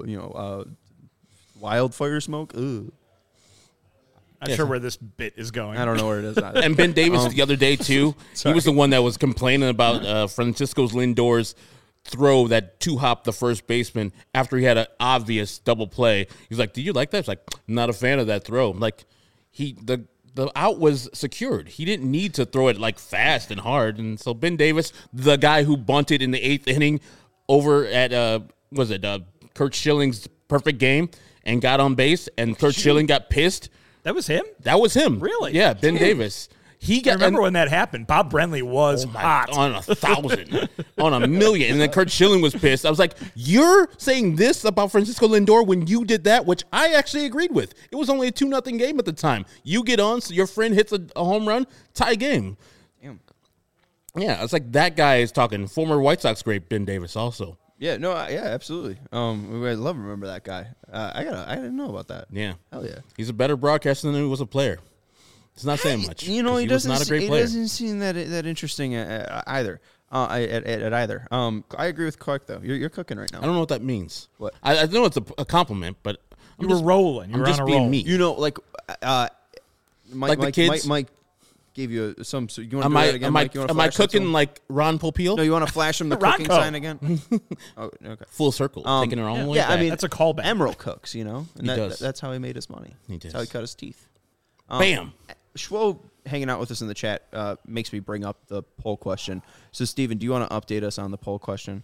wildfire smoke. Ugh. Not sure where this bit is going. I don't know where it is. And Ben Davis the other day too. He was the one that was complaining about Francisco Lindor's throw that two-hop the first baseman after he had an obvious double play. He's like, "Do you like that?" It's like, "I'm not a fan of that throw." Like, the out was secured. He didn't need to throw it like fast and hard. And so Ben Davis, the guy who bunted in the 8th inning over at Kurt Schilling's perfect game and got on base, and Kurt Schilling got pissed. That was him? That was him. Really? Yeah, Ben Davis. I remember when that happened. Bob Brenly was hot. On 1,000, on 1,000,000. And then Kurt Schilling was pissed. I was like, you're saying this about Francisco Lindor when you did that, which I actually agreed with. It was only a 2-0 game at the time. You get on, so your friend hits a home run, tie game. Damn. Yeah, it's like that guy is talking. Former White Sox great Ben Davis also. Yeah, no, absolutely. I'd love to remember that guy. I didn't know about that. Yeah. Hell yeah. He's a better broadcaster than he was a player. It's not saying much. He was not a great player. He doesn't seem that interesting either. At either. I agree with Clark though. You're cooking right now. I don't know what that means. What? I know it's a compliment, but You were rolling. You I'm were just on a being roll. me. Mike the kids? Mike gave you some. So you want to do that again, Mike? You wanna am I flash that cooking someone? like Ron Popeil? No, you want to flash him the cooking Ronco. sign again? Oh, okay. Full circle, taking it all the way Yeah, I back. mean That's a callback. Emerald cooks, and He does. that's how he made his money. He That's how he does. cut his teeth. Bam. Schwo hanging out with us in the chat makes me bring up the poll question. So, Steven, do you want to update us on the poll question?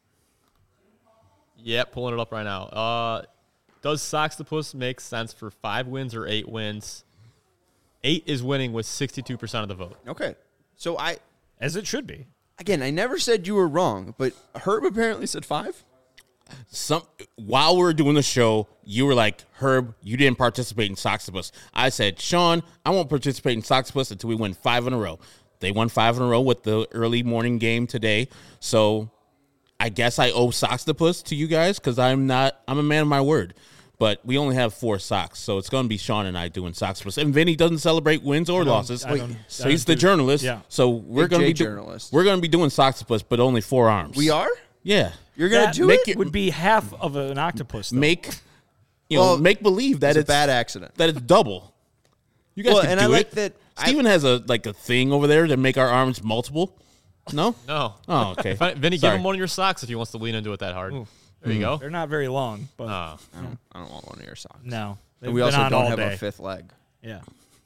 Yeah, pulling it up right now. Does Soxtopus make sense for 5 wins or 8 wins? 8 is winning with 62% of the vote. Okay. So As it should be. again, I never said you were wrong, but Herb apparently said 5. While we were doing the show, you were like, Herb, you didn't participate in Soxtopus. I said, Sean, I won't participate in Soxtopus until we win 5 in a row. They won 5 in a row with the early morning game today. So I guess I owe Soxtopus to you guys because I'm a man of my word. But we only have 4 Sox, so it's going to be Sean and I doing Soxtopus. And Vinny doesn't celebrate wins or losses. So he's the journalist. Yeah. So we're going to be journalist. we're going to be doing Soxtopus, but only 4 arms. We are? Yeah. You're going That to do make it? it- would be half of an octopus. Though. Make Well, make believe that It's a bad accident. that it's double. You guys Well, can and do I like it. that Steven has a thing over there to make our arms multiple. No? No. Oh, okay. Vinny, give Sorry. him one of your socks if he wants to lean into it that hard. There you go. They're not very long, but I don't want one of your socks. no. They've And we been also on don't all have day. a 5th leg. Yeah.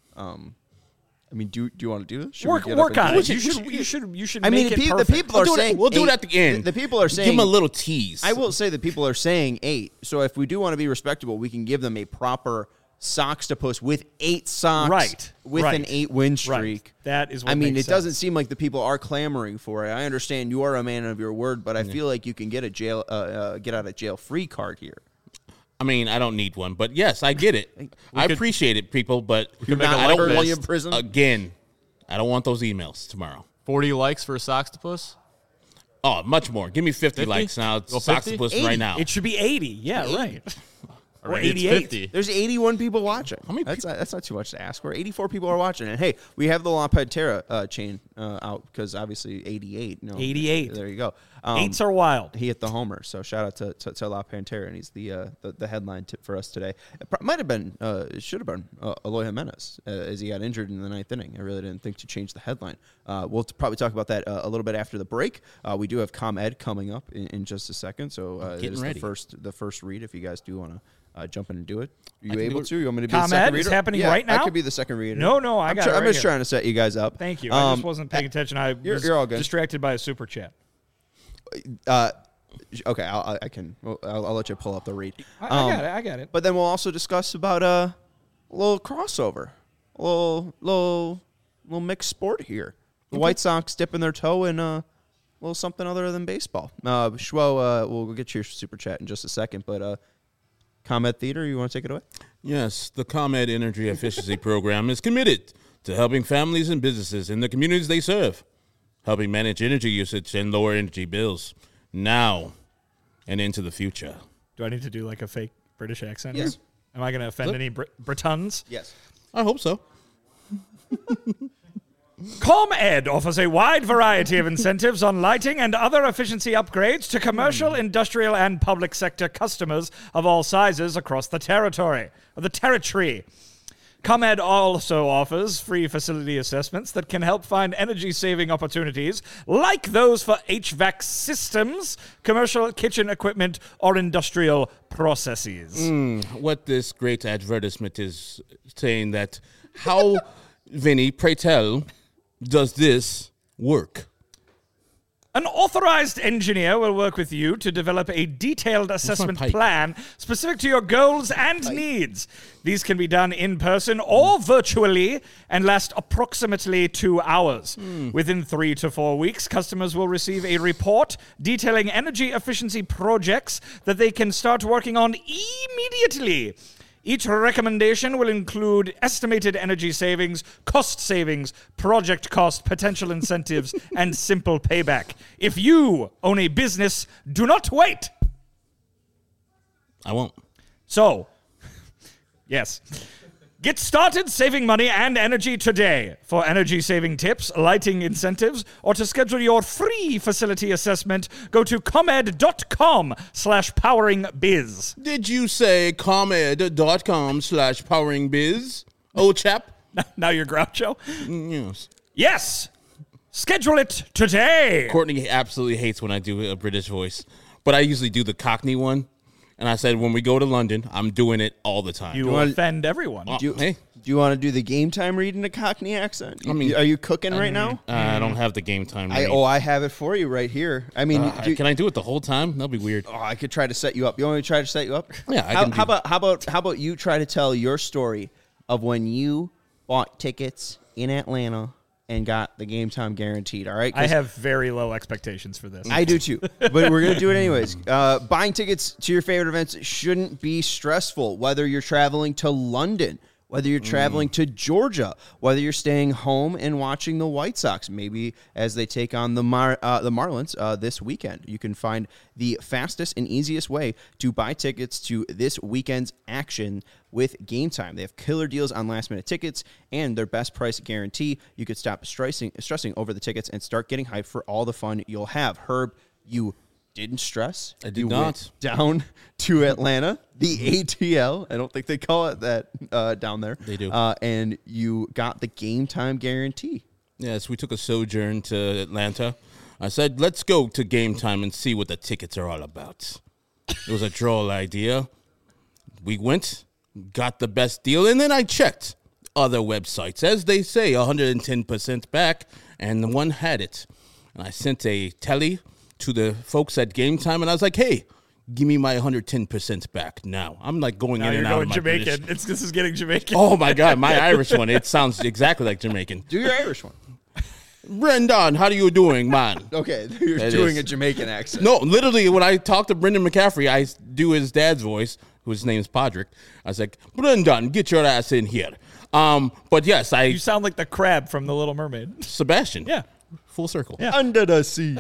I mean, do you want to do this? Should Work we get up and on do it. You should I mean, make the it perfect. people are saying We'll do it 8. at the end. The people are saying Give him a little tease. I will say that people are saying 8. So if we do want to be respectable, we can give them a proper Soxtopus with 8 socks, Right, With right, an 8-win streak. Right. That is what I mean, makes it doesn't sense. seem like the people are clamoring for it. I understand you are a man of your word, but I feel like you can get a get out of jail free card here. I mean, I don't need one, but yes, I get it. I appreciate it, people, but could make Not a I like don't currently want in prison. again. I don't want those emails tomorrow. 40 likes for a Soxtopus? Oh, much more. Give me 50 50? likes now. Go 50? Soxtopus right now. It should be 80. Yeah, right. Or Already it's 88. 50. There's 81 people watching. many That's not too much to ask for. 84 people are watching. And hey, we have the La Pantera chain out because obviously 88. 88. There you go. Eights are wild. He hit the homer, so shout out to La Pantera, and he's the headline tip for us today. Might have been, it should have been Eloy Jimenez as he got injured in the 9th inning. I really didn't think to change the headline. We'll probably talk about that a little bit after the break. We do have ComEd coming up in just a second, so it is ready. the first read. If you guys do want to jump in and do it, are you can do able it. to? You want me to be the ComEd second is reader? happening Yeah, right I now? could be the second reader. No, I'm got it I'm right just here. trying to set you guys up. Thank you. I just wasn't paying attention. I was you're all good. distracted by a super chat. Okay, I can. I'll let you pull up the read. I got it. But then we'll also discuss about a little crossover, a little mixed sport here. The White Sox dipping their toe in a little something other than baseball. Schwo, we'll get your super chat in just a second, but ComEd Theater, you want to take it away? Yes, the ComEd Energy Efficiency Program is committed to helping families and businesses in the communities they serve, helping manage energy usage and lower energy bills now and into the future. Do I need to do like a fake British accent Yes. here? Am I going to offend any Britons? Yes. I hope so. ComEd offers a wide variety of incentives on lighting and other efficiency upgrades to commercial, industrial, and public sector customers of all sizes across the territory. ComEd also offers free facility assessments that can help find energy-saving opportunities like those for HVAC systems, commercial kitchen equipment, or industrial processes. What this great advertisement is saying that how, Vinny, pray tell, does this work? An authorized engineer will work with you to develop a detailed assessment pipe. plan specific to your goals and needs. These can be done in person or virtually and last approximately 2 hours. Within 3 to 4 weeks, customers will receive a report detailing energy efficiency projects that they can start working on immediately. Each recommendation will include estimated energy savings, cost savings, project cost, potential incentives, and simple payback. If you own a business, do not wait. I won't. So, yes. Get started saving money and energy today. For energy saving tips, lighting incentives, or to schedule your free facility assessment, go to comed.com/poweringbiz. Did you say comed.com/poweringbiz? Oh, chap. Now you're Groucho? Yes. Yes! Schedule it today! Courtney absolutely hates when I do a British voice, but I usually do the Cockney one. And I said, when we go to London, I'm doing it all the time. You will offend everyone. Hey, Do you want to do the game time read in a Cockney accent? I mean, are you cooking right now? I don't have the game time. I have it for you right here. I mean, Can I do it the whole time? That'll be weird. I could try to set you up. You want me to try to set you up? Yeah, I can do- How about you try to tell your story of when you bought tickets in Atlanta and got the game time guaranteed, all right? I have very low expectations for this. I do too, but we're going to do it anyways. Buying tickets to your favorite events shouldn't be stressful, whether you're traveling to London, whether you're traveling to Georgia, whether you're staying home and watching the White Sox, maybe as they take on the Marlins this weekend. You can find the fastest and easiest way to buy tickets to this weekend's action with Game Time. They have killer deals on last-minute tickets and their best price guarantee. You could stop stressing over the tickets and start getting hyped for all the fun you'll have. Herb, you didn't stress. I did You not. went down to Atlanta, the ATL. I don't think they call it that down there. They do. And you got the Game Time guarantee. Yes, we took a sojourn to Atlanta. I said, let's go to Game Time and see what the tickets are all about. It was a droll idea. We went, got the best deal, and then I checked other websites. As they say, 110% back, and the one had it. And I sent a telly to the folks at Game Time, and I was like, hey, give me my 110% back now. I'm like going now in you're and out going of my Jamaican. British. This is getting Jamaican. Oh, my God, my Irish one. It sounds exactly like Jamaican. Do your Irish one. Brendan, how are you doing, man? Okay, you're It doing is. a Jamaican accent. No, literally, when I talk to Brendan McCaffrey, I do his dad's voice, whose name is Podrick. I was like, Brendan, get your ass in here. But yes, You sound like the crab from The Little Mermaid. Sebastian. Yeah. Full circle. Yeah. Under the sea.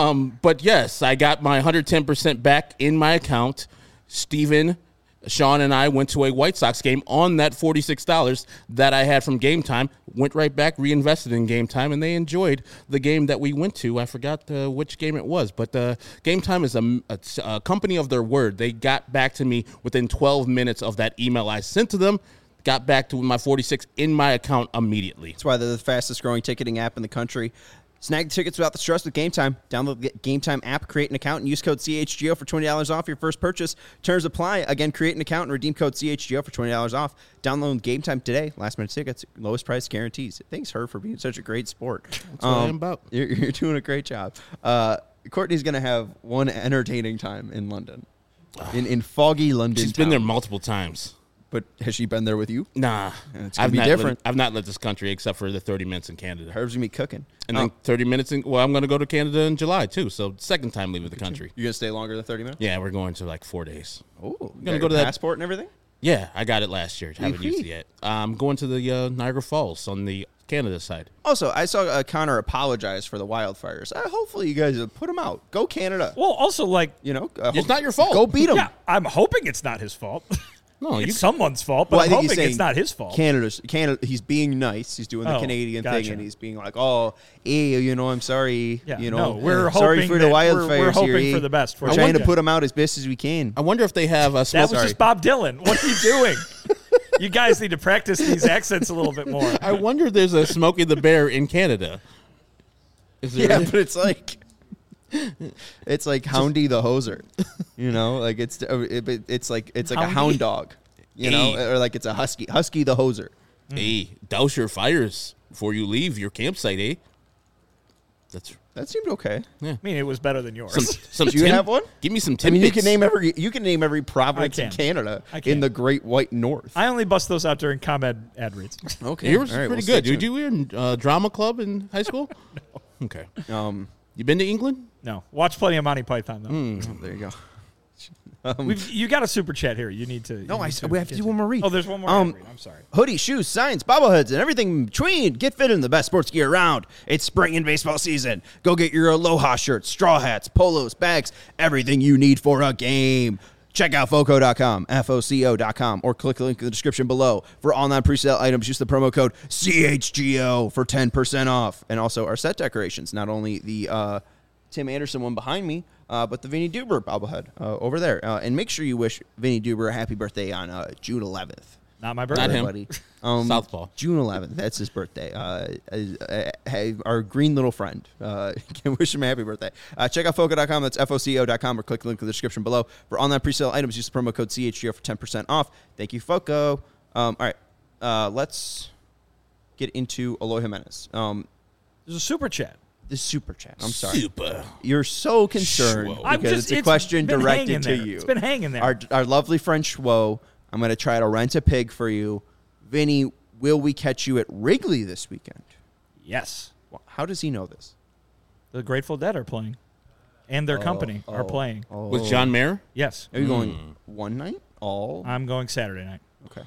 But yes, I got my 110% back in my account. Steven, Sean, and I went to a White Sox game on that $46 that I had from Game Time. Went right back, reinvested in Game Time, and they enjoyed the game that we went to. I forgot which game it was, but Game Time is a company of their word. They got back to me within 12 minutes of that email I sent to them. Got back to my 46 in my account immediately. That's why they're the fastest growing ticketing app in the country. Snag the tickets without the stress with Game Time. Download the Game Time app, create an account, and use code CHGO for $20 off your first purchase. Terms apply. Again, create an account and redeem code CHGO for $20 off. Download Game Time today. Last minute tickets, lowest price guarantees. Thanks, Herb, for being such a great sport. That's what I'm about. You're doing a great job. Courtney's going to have one entertaining time in London, in foggy London. She's been there multiple times. But has she been there with you? Nah, It's gonna be different. I've not left this country except for the 30 minutes in Canada. Herb's going to be cooking. And then 30 minutes in, well, I'm going to go to Canada in July too. So second time leaving the country. You're going to stay longer than 30 minutes? Yeah, we're going to like 4 days. Oh, gonna go to that passport and everything? Yeah, I got it last year. Haven't used it yet. I'm going to the Niagara Falls on the Canada side. Also, I saw Connor apologize for the wildfires. Hopefully, you guys put him out. Go Canada. Well, also, like, You know, It's not your fault. Go beat him. yeah, I'm hoping it's not his fault. No, It's you someone's fault, but Well, I I'm think he's hoping saying it's not his fault. Canada. He's being nice. He's doing the Oh, Canadian thing, gotcha. and he's being like, "Oh, hey, you know, I'm sorry. Yeah, you know, no, we're sorry hoping for the that- wildfires we're hoping here. for the best for We're trying to Georgia. put him out as best as we can. I wonder if they have a That smoke. was just Bob Dylan. What are you doing? You guys need to practice these accents a little bit more. I wonder if there's a Smokey the Bear in Canada. Is there? Yeah, but it's like Houndy the Hoser. You know, like it's like a Houndy? hound dog. You know, or like it's a husky the Hoser. Hey, douse your fires before you leave your campsite, eh? That seemed okay. I mean, it was better than yours. Some Do you have one? Give me some I tidbits. mean, you can name every province I in can. Canada I can. in the Great White North. I only bust those out during ComEd ad reads. Okay, Yours all right, is pretty we'll good. stay Did you were in drama club in high school? No. Okay. tuned. You been to England? No, watch plenty of Monty Python though. There you go. You got a super chat here. You need to. No, you need to we have to get do one more read. Oh, there's one more. ad read. I'm sorry. Hoodies, shoes, signs, bobbleheads, and everything in between. Get fit in the best sports gear around. It's spring and baseball season. Go get your Aloha shirts, straw hats, polos, bags, everything you need for a game. Check out foco.com, FOCO.com, or click the link in the description below. For all non-presale items, use the promo code CHGO for 10% off. And also our set decorations, not only the Tim Anderson one behind me, but the Vinny Duber bobblehead over there. And make sure you wish Vinny Duber a happy birthday on June 11th. Not my birthday. Not him. buddy. Southpaw. June 11th. That's his birthday. Our green little friend. Can wish him a happy birthday. Check out Foco.com. That's FOCO.com, or click the link in the description below. For online presale items, use the promo code CHGO for 10% off. Thank you, Foco. All right. Let's get into Eloy Jimenez. There's a super chat. The super chat. I'm sorry. Super. You're so concerned Schwo. because it's a question been directed hanging to there. you. It's been hanging there. Our lovely friend Schwo. I'm going to try to rent a pig for you. Vinny, will we catch you at Wrigley this weekend? Yes. Well, how does he know this? The Grateful Dead are playing. And their company are playing. With John Mayer? Yes. Are you going one night? All? I'm going Saturday night. Okay.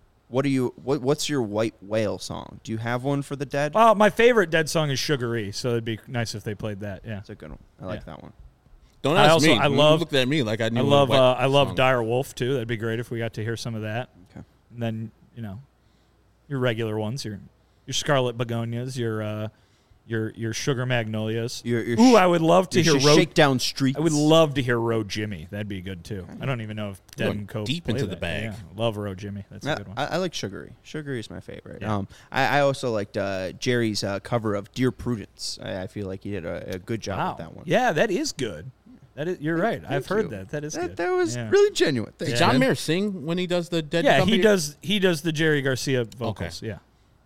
What's your White Whale song? Do you have one for the Dead? Well, my favorite Dead song is Sugar-E, so it'd be nice if they played that. Yeah. That's a good one. I like Yeah. that one. Don't I ask also- me. I You love- looked at me like I knew. I love Dire Wolf too. That'd be great if we got to hear some of that. Okay. And then, your regular ones, your Scarlet Begonias, your Sugar Magnolias. Your I would love to hear Road. Shakedown Streets. I would love to hear Road Jimmy. That'd be good too. I don't even know if Dead Going and Co. deep play into the that. bag. Yeah, love Road Jimmy. That's a good one. I like Sugar-E. Sugar-E is my favorite. Yeah. I also liked Jerry's cover of Dear Prudence. I feel like he did a good job with that one. Yeah, that is good. You're right. I've Thank heard you. that. That is good. That was Yeah. really genuine. Thanks, Did John man. Mayer sing when he does the Dead Yeah, Company? he does the Jerry Garcia vocals. Yeah. Have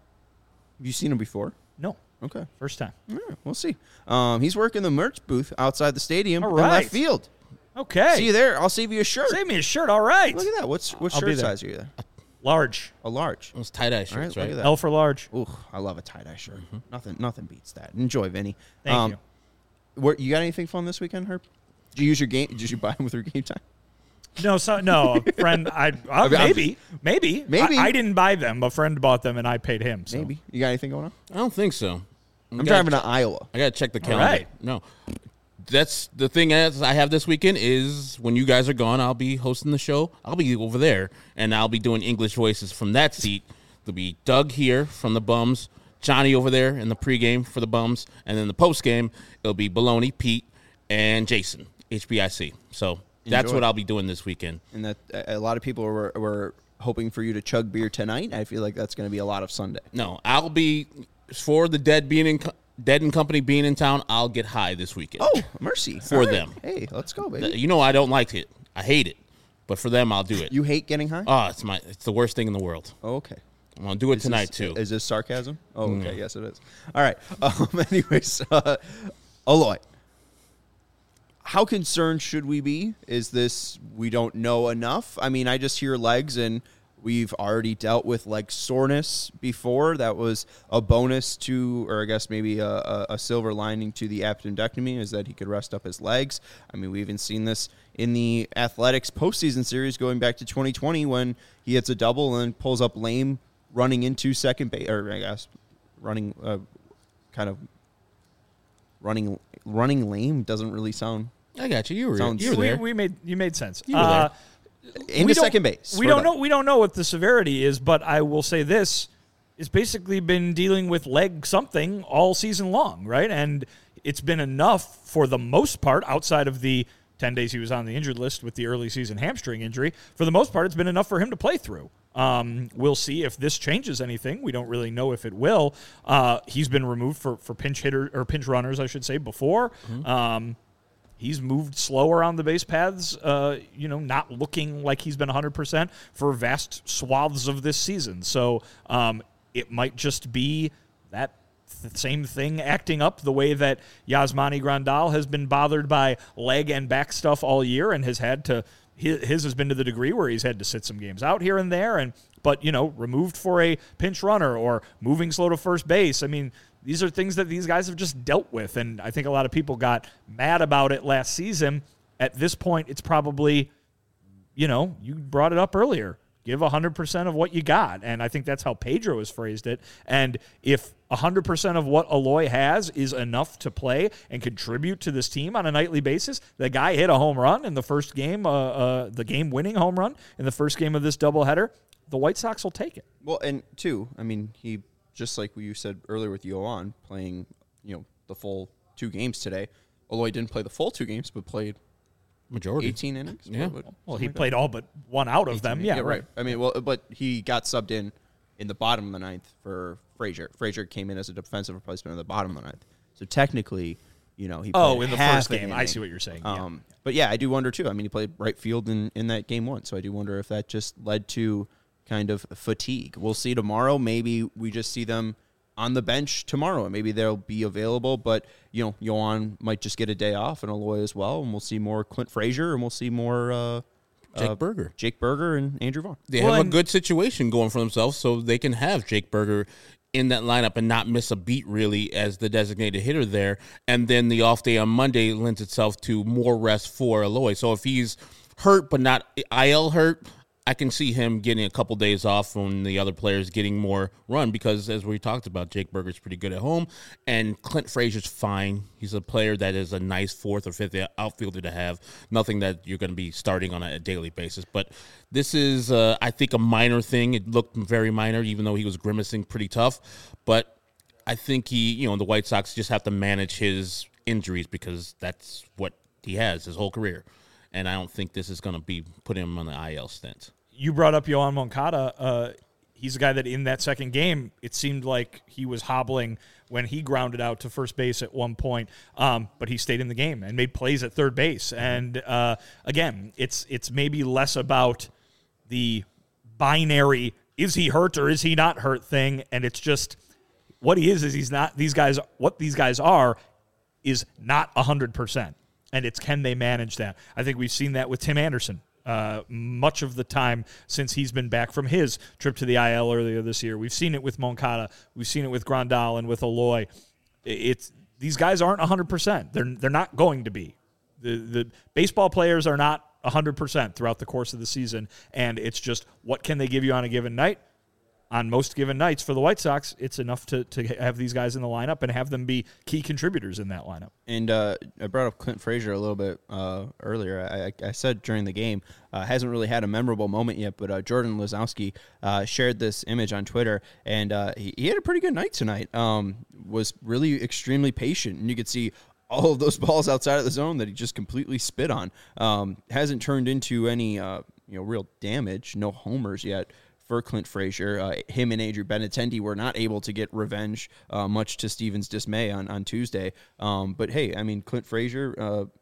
you seen him before? No, Okay. first time. All right, we'll see. He's working the merch booth outside the stadium All in right. left field. Okay. See you there. I'll save you a shirt. Save me a shirt. All right. Look at that. What I'll be shirt there. size are you there? Large. A large. Those tie-dye All right, shirts, look right? at that. L for large. Ooh, I love a tie-dye shirt. Nothing beats that. Enjoy, Vinny. Thank you. You got anything fun this weekend, Herb? Did you use your game? Did you buy them with your game time? No, a friend. Maybe. Maybe. I didn't buy them. A friend bought them, and I paid him. So. Maybe. You got anything going on? I don't think so. I'm driving to Iowa. I gotta check the calendar. right. No, that's the thing. As I have this weekend is when you guys are gone, I'll be hosting the show. I'll be over there, and I'll be doing English voices from that seat. There'll be Doug here from the Bums, Johnny over there in the pregame for the Bums, and then the postgame it'll be Baloney, Pete, and Jason HBIC. So that's Enjoy. what I'll be doing this weekend. And that a lot of people were hoping for you to chug beer tonight. I feel like that's going to be a lot of Sunday. No, I'll be for the Dead and Company being in town. I'll get high this weekend. Oh, mercy. For All right. them. Hey, let's go, baby. You know I don't like it. I hate it, but for them I'll do it. You hate getting high? Oh, it's the worst thing in the world. Oh, okay. I'm gonna do it tonight too. Is this sarcasm? Oh, okay. Yes, it is. All right. Anyways, Eloy, how concerned should we be? Is this we don't know enough? I mean, I just hear legs, and we've already dealt with leg soreness before. That was a bonus to, or I guess maybe a silver lining to the appendectomy, is that he could rest up his legs. I mean, we even seen this in the Athletics postseason series going back to 2020 when he hits a double and pulls up lame running into second base, or I guess running running lame doesn't really sound I got you. You were Sounds- there. You made sense. You were there. into second base. We for don't them. know. We don't know what the severity is, but I will say this: it's basically been dealing with leg something all season long, right? And it's been enough for the most part, outside of the 10 days he was on the injured list with the early season hamstring injury. For the most part, it's been enough for him to play through. We'll see if this changes anything. We don't really know if it will. He's been removed for pinch hitter or pinch runners, I should say, before. He's moved slower on the base paths, not looking like he's been 100% for vast swaths of this season. So it might just be that same thing acting up the way that Yasmani Grandal has been bothered by leg and back stuff all year and has had to. His has been to the degree where he's had to sit some games out here and there, but removed for a pinch runner or moving slow to first base. I mean, these are things that these guys have just dealt with, and I think a lot of people got mad about it last season. At this point, it's probably, you brought it up earlier. Give 100% of what you got, and I think that's how Pedro has phrased it. And if 100% of what Eloy has is enough to play and contribute to this team on a nightly basis, the guy hit a home run in the first game, the game-winning home run in the first game of this doubleheader. The White Sox will take it. Well, and two, I mean, he, just like you said earlier with Yoan playing, the full 2 games today. Eloy didn't play the full 2 games, but played Majority. 18 innings. Yeah. Well, he played all but one out of them. Yeah, right. I mean, well, but he got subbed in the bottom of the ninth for Frazier. Frazier came in as a defensive replacement in the bottom of the ninth. So technically, he played in the half first an game. inning. I see what you're saying. But yeah, I do wonder too. I mean, he played right field in that game one, so I do wonder if that just led to kind of fatigue. We'll see tomorrow. Maybe we just see them on the bench tomorrow, and maybe they'll be available. But Yohan might just get a day off, and Eloy as well, and we'll see more Clint Frazier, and we'll see more Jake Berger, and Andrew Vaughn. They have a good situation going for themselves, so they can have Jake Berger in that lineup and not miss a beat really as the designated hitter there. And then the off day on Monday lends itself to more rest for Eloy. So if he's hurt but not IL hurt, I can see him getting a couple days off when the other players getting more run because, as we talked about, Jake Berger's pretty good at home, and Clint Frazier's fine. He's a player that is a nice fourth or fifth outfielder to have. Nothing that you're going to be starting on a daily basis. But this is, I think, a minor thing. It looked very minor, even though he was grimacing pretty tough. But I think the White Sox just have to manage his injuries because that's what he has his whole career. And I don't think this is going to be putting him on the IL stint. You brought up Yohan Moncada. He's a guy that in that second game, it seemed like he was hobbling when he grounded out to first base at one point. But he stayed in the game and made plays at third base. And again, it's maybe less about the binary, is he hurt or is he not hurt thing? And it's just what he is he's not. What these guys are is not 100%. And it's can they manage that? I think we've seen that with Tim Anderson much of the time since he's been back from his trip to the IL earlier this year. We've seen it with Moncada. We've seen it with Grandal and with Eloy. These guys aren't 100%. They're not going to be. The baseball players are not 100% throughout the course of the season, and it's just what can they give you on a given night? On most given nights for the White Sox, it's enough to have these guys in the lineup and have them be key contributors in that lineup. And I brought up Clint Frazier a little bit earlier. I said during the game, hasn't really had a memorable moment yet, but Jordan Lazowski shared this image on Twitter, and he had a pretty good night tonight. Was really extremely patient, and you could see all of those balls outside of the zone that he just completely spit on. Hasn't turned into any real damage, no homers yet for Clint Frazier. Him and Andrew Benintendi were not able to get revenge, much to Steven's dismay on Tuesday. But hey, I mean, Clint Frazier,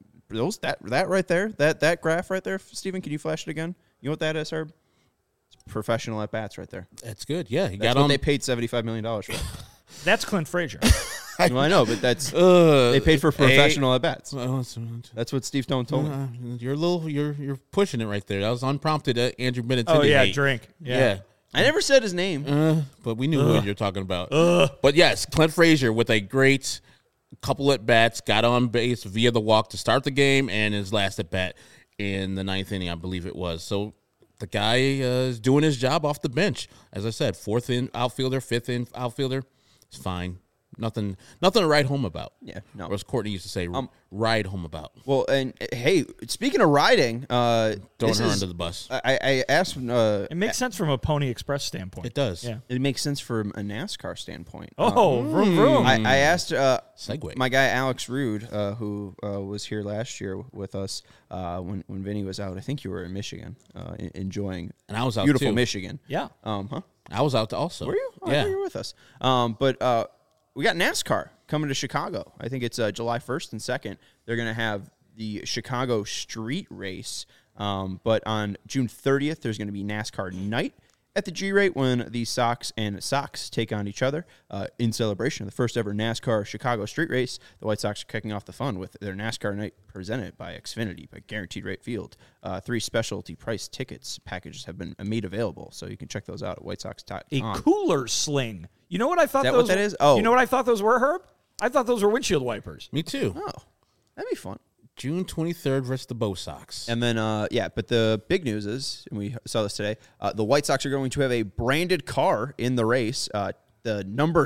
that right there, that graph right there, Steven, can you flash it again? You know what that is, Herb? It's professional at bats right there. That's good. Yeah, That's what they paid $75 million for. That's Clint Frazier. Well, I know, but that's they paid for professional at bats. That's what Steve Stone told me. You're pushing it right there. That was unprompted. Andrew Benintendi. Oh yeah, hate. drink. Yeah. I never said his name, but we knew who you're talking about. But yes, Clint Frazier with a great couple at bats, got on base via the walk to start the game, and his last at bat in the ninth inning, I believe it was. So the guy is doing his job off the bench. As I said, fourth in outfielder, fifth in outfielder. It's fine. Nothing to write home about. Yeah, no. Or as Courtney used to say, ride home about. Well, and hey, speaking of riding, throwing her under the bus. I asked. It makes sense from a Pony Express standpoint. It does. Yeah. It makes sense from a NASCAR standpoint. Vroom vroom. I asked Segue. my guy Alex Rude, who was here last year with us when Vinny was out. I think you were in Michigan, enjoying and I was out beautiful too. Michigan. Yeah. I was out also. Were you? Oh, I yeah. thought you were with us. But we got NASCAR coming to Chicago. I think it's July 1st and 2nd. They're going to have the Chicago Street Race. But on June 30th, there's going to be NASCAR Night at the G-Rate when the Sox and Sox take on each other in celebration of the first ever NASCAR Chicago Street Race. The White Sox are kicking off the fun with their NASCAR Night presented by Xfinity by Guaranteed Rate Field. 3 specialty price tickets packages have been made available, so you can check those out at whitesox.com. A cooler sling. You know what I thought Is that those what that is? Oh. You know what I thought those were, Herb? I thought those were windshield wipers. Me too. Oh, that'd be fun. June 23rd versus the Bo Sox. And then, but the big news is, and we saw this today, the White Sox are going to have a branded car in the race, the number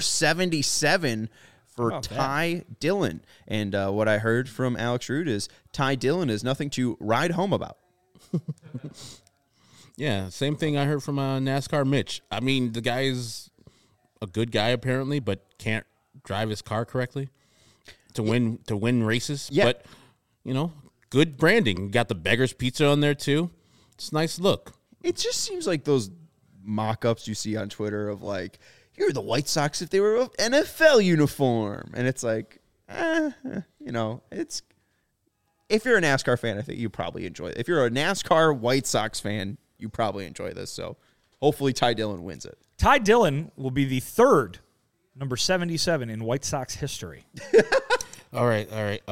77 for Ty Dillon. And what I heard from Alex Rude is Ty Dillon is nothing to ride home about. Yeah, same thing I heard from NASCAR Mitch. I mean, the guy is a good guy apparently, but can't drive his car correctly to win races. Yeah. But good branding. You got the Beggar's Pizza on there too. It's a nice look. It just seems like those mock-ups you see on Twitter of like, here are the White Sox if they were an NFL uniform. And it's like, it's if you're a NASCAR fan, I think you probably enjoy it. If you're a NASCAR White Sox fan, you probably enjoy this. So hopefully Ty Dillon wins it. Ty Dillon will be the third number 77 in White Sox history. All right.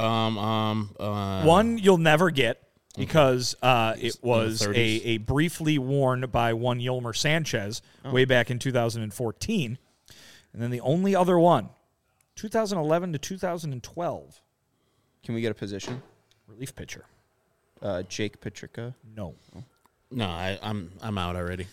One you'll never get because it was a briefly worn by one Yolmer Sanchez way back in 2014. And then the only other one, 2011 to 2012. Can we get a position? Relief pitcher. Jake Petricka. No. No, I'm out already.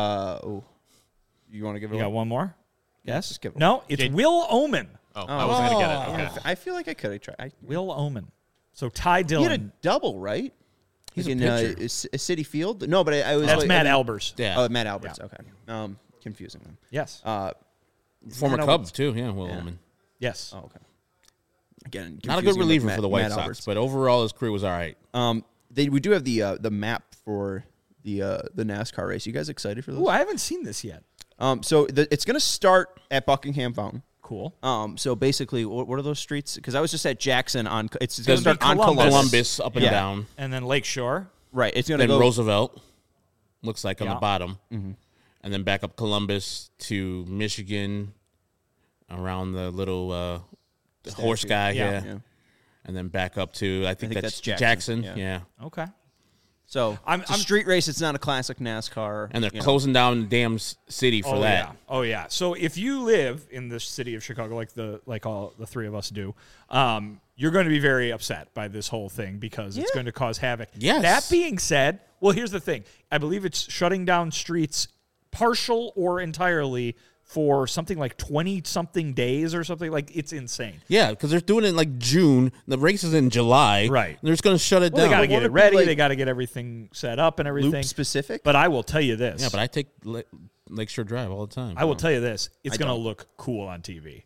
You want to give it? You got one more? Yes. Just give it. No, it's Will Omen. I wasn't going to get it. Okay. I feel like I could have tried. Will Omen. So Ty He Dillon. had a double, right? He's Like a in pitcher. a City Field. No, but I was. That's like, Matt Albers. Yeah. Oh, Matt Alberts. Okay. Confusing them. Yes. Former Matt Cubs too. Yeah, Will Yeah. Omen. Yes. Oh, okay. Again, Not a confusing good them with reliever Matt- for the White Matt Sox, Alberts. but overall his career was all right. We do have the map for the NASCAR race. You guys excited for this? Ooh, I haven't seen this yet. So it's going to start at Buckingham Fountain. Cool. So basically, what are those streets? Because I was just at Jackson on. It's going to gonna start be on Columbus. Columbus. Columbus up and Yeah. down. And then Lakeshore. Right. It's going to Then go. Roosevelt looks like on Yeah. the bottom, and then back up Columbus to Michigan, around the little horse guy, Yeah. Yeah. and then back up to I think that's Jackson. Jackson. Yeah. Okay. So I'm- it's a street race. It's not a classic NASCAR. And they're you know. closing down the damn city for that. Yeah. Oh yeah. So if you live in the city of Chicago, like all the three of us do, you're going to be very upset by this whole thing because it's going to cause havoc. Yes. That being said, well, here's the thing. I believe it's shutting down streets, partial or entirely, for something like 20-something days or something. Like, it's insane. Yeah, because they're doing it in like June. The race is in July. Right. They're just going to shut it Well, they down. got to get it it be ready. like They got to get everything set up and everything. Loop specific. But I will tell you this. Yeah, but I take Lakeshore Drive all the time. I will tell you this. It's I going to don't. look cool on TV.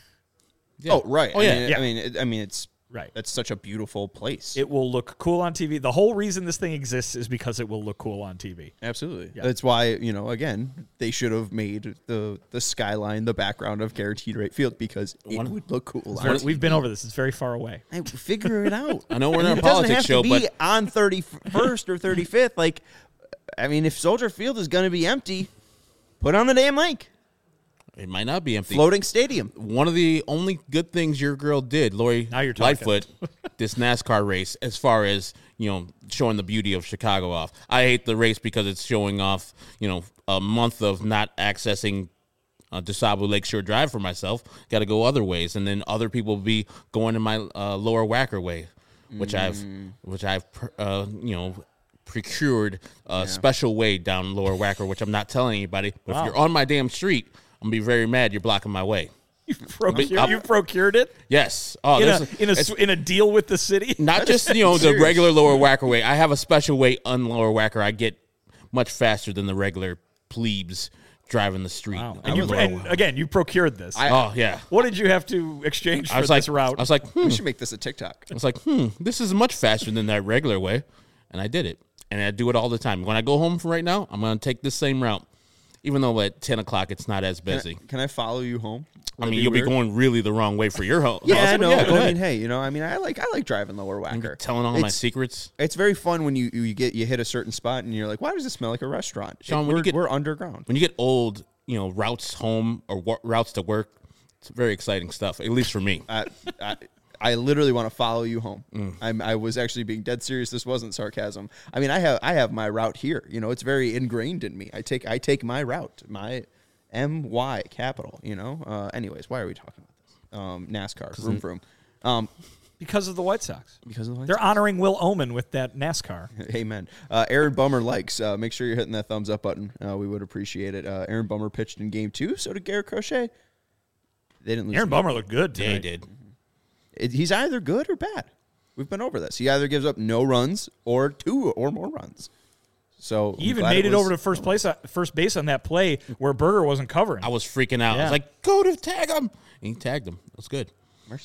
Yeah. Oh right. Oh, yeah. I mean, it's Right. That's such a beautiful place. It will look cool on TV. The whole reason this thing exists is because it will look cool on TV. Absolutely. Yeah. That's why, again, they should have made the skyline the background of Guaranteed Rate Field because it would look cool. on TV. We've been over this. It's very far away. Hey, figure it out. I know we're not a It doesn't politics have show, to be but on 31st or 35th. Like, I mean, if Soldier Field is going to be empty, put on the damn lake. it might not be empty. Floating stadium. One of the only good things your girl did, Lori Now you're talking. Lightfoot, this NASCAR race, as far as, showing the beauty of Chicago off. I hate the race because it's showing off, a month of not accessing DeSable Lakeshore Drive for myself. Got to go other ways. And then other people will be going in my Lower Wacker way, which I've procured a special way down Lower Wacker, which I'm not telling anybody. But if you're on my damn street, I'm going to be very mad you're blocking my way. You procured it Yes. Oh, in a deal with the city. not just the regular Lower Wacker way. I have a special way on Lower Wacker. I get much faster than the regular plebes driving the street. Wow. on And, Lower and again, you procured this. Oh yeah. What did you have to exchange for I was like, this route? I was like, We should make this a TikTok. this is much faster than that regular way, and I did it, and I do it all the time. When I go home right now, I'm going to take this same route, even though at 10 o'clock it's not as busy. Can I follow you home? I mean, you'll be going really the wrong way for your home. Yeah, I know. Yeah, But go I ahead. mean, hey, I like driving Lower Wacker. Telling all my secrets. It's very fun when you hit a certain spot and you're like, why does it smell like a restaurant? Sean, when we're underground. When you get old, routes home or routes to work, it's very exciting stuff, at least for me. I literally want to follow you home. I was actually being dead serious. This wasn't sarcasm. I mean, I have my route here. It's very ingrained in me. I take my route, my MY capital. Anyways, why are we talking about this? NASCAR, vroom vroom. because of the White Sox. Because of the White They're Sox. honoring Will Omen with that NASCAR. Amen. Aaron Bummer likes. Make sure you're hitting that thumbs up button. We would appreciate it. Aaron Bummer pitched in Game 2. So did Garrett Crochet. They didn't lose. Aaron Bummer looked good Yeah, today. he did. He's either good or bad. We've been over this. He either gives up no runs or 2 or more runs. So He even made it over to first base on that play where Berger wasn't covering. I was freaking out. I Yeah. was like, go to tag him. And he tagged him. It was good. Mercy.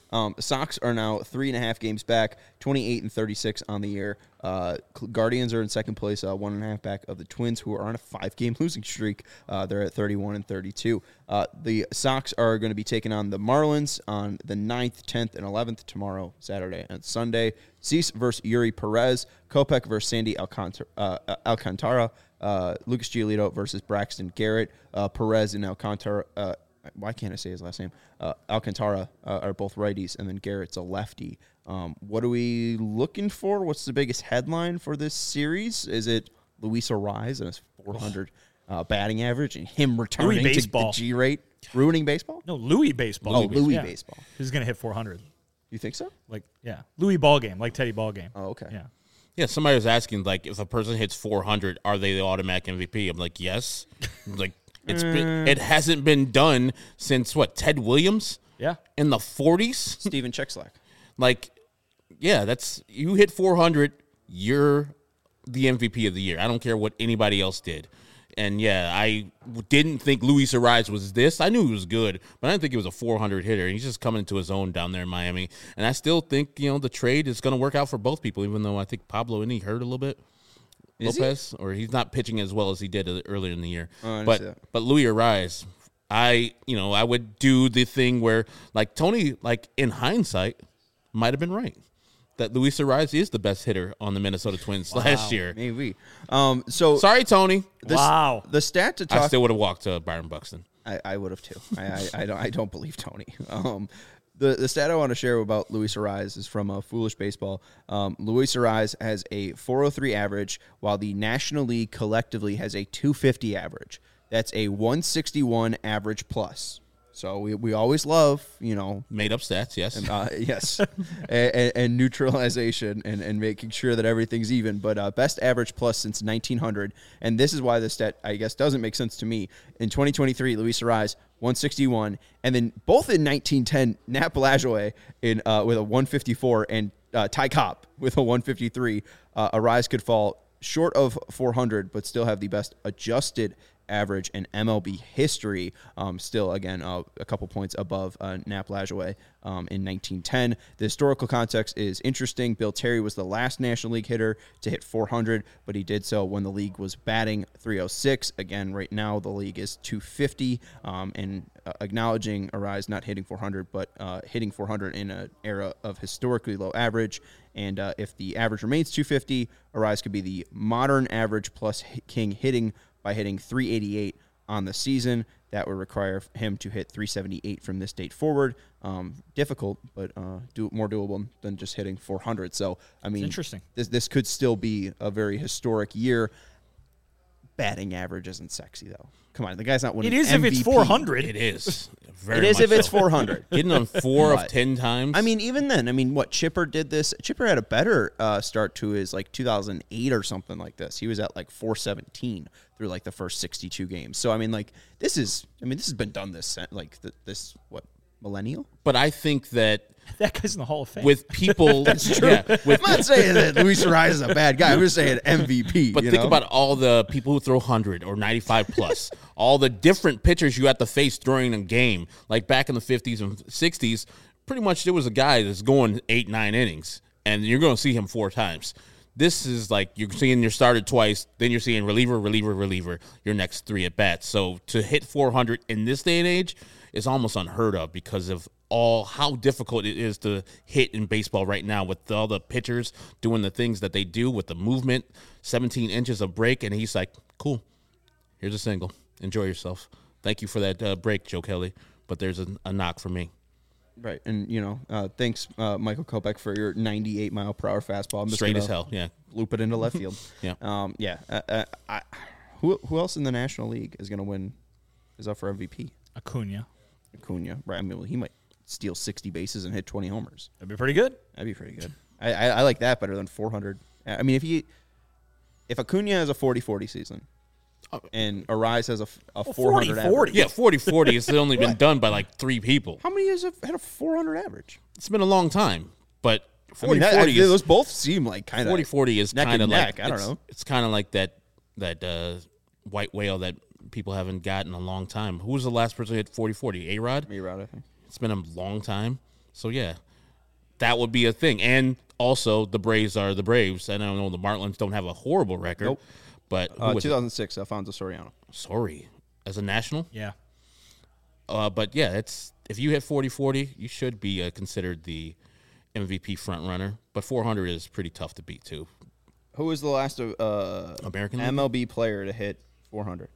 Sox are now 3.5 games back, 28-36 on the year. Guardians are in second place, 1.5 back of the Twins, who are on a 5-game losing streak. They're at 31-32. The Sox are going to be taking on the Marlins on the 9th, 10th, and 11th tomorrow, Saturday, and Sunday. Cease versus Yuri Perez. Kopech versus Sandy Alcantara. Lucas Giolito versus Braxton Garrett. Perez and Alcantara. Why can't I say his last name? Alcantara are both righties, and then Garrett's a lefty. What are we looking for? What's the biggest headline for this series? Is it Luis Arraez and his 400 batting average and him returning to the G rate, ruining baseball? No, Louis baseball. Oh, Louis baseball. He's going to hit 400. You think so? Louis ball game, like Teddy ball game. Oh, okay. Yeah. Yeah, somebody was asking, like, if a person hits 400, are they the automatic MVP? I'm like, yes. Like, it hasn't been done since, Ted Williams? Yeah. In the 40s? Steven Chekslak. Like, yeah, you hit 400, you're the MVP of the year. I don't care what anybody else did. And, yeah, I didn't think Luis Arraez was this. I knew he was good, but I didn't think he was a 400 hitter. He's just coming into his own down there in Miami. And I still think, the trade is going to work out for both people, even though I think Pablo Indy hurt a little bit. Lopez, or he's not pitching as well as he did earlier in the year. But Luis Arraez, I would do the thing where, like, Tony, like, in hindsight, might have been right. That Luis Arraez is the best hitter on the Minnesota Twins last year. Maybe. Sorry, Tony. The stat to talk. I still would have walked to Byron Buxton. I would have too. I don't believe Tony. The stat I want to share about Luis Arraez is from Foolish Baseball. Luis Arraez has a 403 average, while the National League collectively has a 250 average. That's a 161 average plus. So we always love, made up stats, yes. And, yes. and neutralization and making sure that everything's even. But best average plus since 1900. And this is why this stat, I guess, doesn't make sense to me. In 2023, Luis Arraez, 161. And then both in 1910, Nat Lajoie with a 154 and Ty Cobb with a 153. Arraez could fall short of 400, but still have the best adjusted average in MLB history. Still, again, a couple points above Nap Lajoie in 1910. The historical context is interesting. Bill Terry was the last National League hitter to hit 400, but he did so when the league was batting 306. Again, right now the league is 250, and acknowledging Arraez not hitting 400, but hitting 400 in an era of historically low average. And if the average remains 250, Arraez could be the modern average plus king hitting by hitting 388 on the season. That would require him to hit 378 from this date forward. Difficult, but more doable than just hitting 400. So, I mean, interesting. This could still be a very historic year. Batting average isn't sexy, though. Come on, the guy's not winning. It is MVP. if it's 400. It is. It is if it's 400. Hitting on 4 of 10 times. I mean, even then, what Chipper did this. Chipper had a better start to his 2008 or something like this. He was at 417 through the first 62 games. So this has been done this millennial. But I think that guy's in the Hall of Fame. with people, That's true. I'm not saying that Luis Arraez is a bad guy. I'm just saying MVP. But think about all the people who throw 100 or 95 plus, all the different pitchers you have to face during a game. Like back in the 50s and 60s, pretty much there was a guy that's going 8-9 innings, and you're going to see him 4 times. This is you're seeing your starter twice, then you're seeing reliever, your next 3 at bats. So to hit 400 in this day and age is almost unheard of because of how difficult it is to hit in baseball right now with all the pitchers doing the things that they do with the movement, 17 inches of break, and he's like, cool, here's a single. Enjoy yourself. Thank you for that break, Joe Kelly, but there's a knock for me. Right, and thanks, Michael Kopech, for your 98-mile-per-hour fastball. I'm just straight as hell, yeah. Loop it into left field. Yeah. Who else in the National League is going to win? Is up for MVP? Acuna, right? He might steal 60 bases and hit 20 homers. That'd be pretty good. I like that better than 400. I mean, if Acuna has a 40-40 season and Arraez has a 400 average. Yeah, 40-40 has only been done by 3 people. How many years have had a 400 average? It's been a long time, but 40-40 those both seem kind of 40-40 is kind of I don't know. It's kind of like that white whale that people haven't gotten in a long time. Who was the last person who hit 40-40? A-Rod? A-Rod, I think. It's been a long time. So, yeah, that would be a thing. And also, the Braves are the Braves. And I don't know, the Marlins don't have a horrible record. Nope. But who was 2006, Alfonso Soriano. Sorry. As a national? Yeah. But, yeah, if you hit 40-40, you should be considered the MVP front runner. But 400 is pretty tough to beat, too. Who was the last American League? MLB player to hit 400?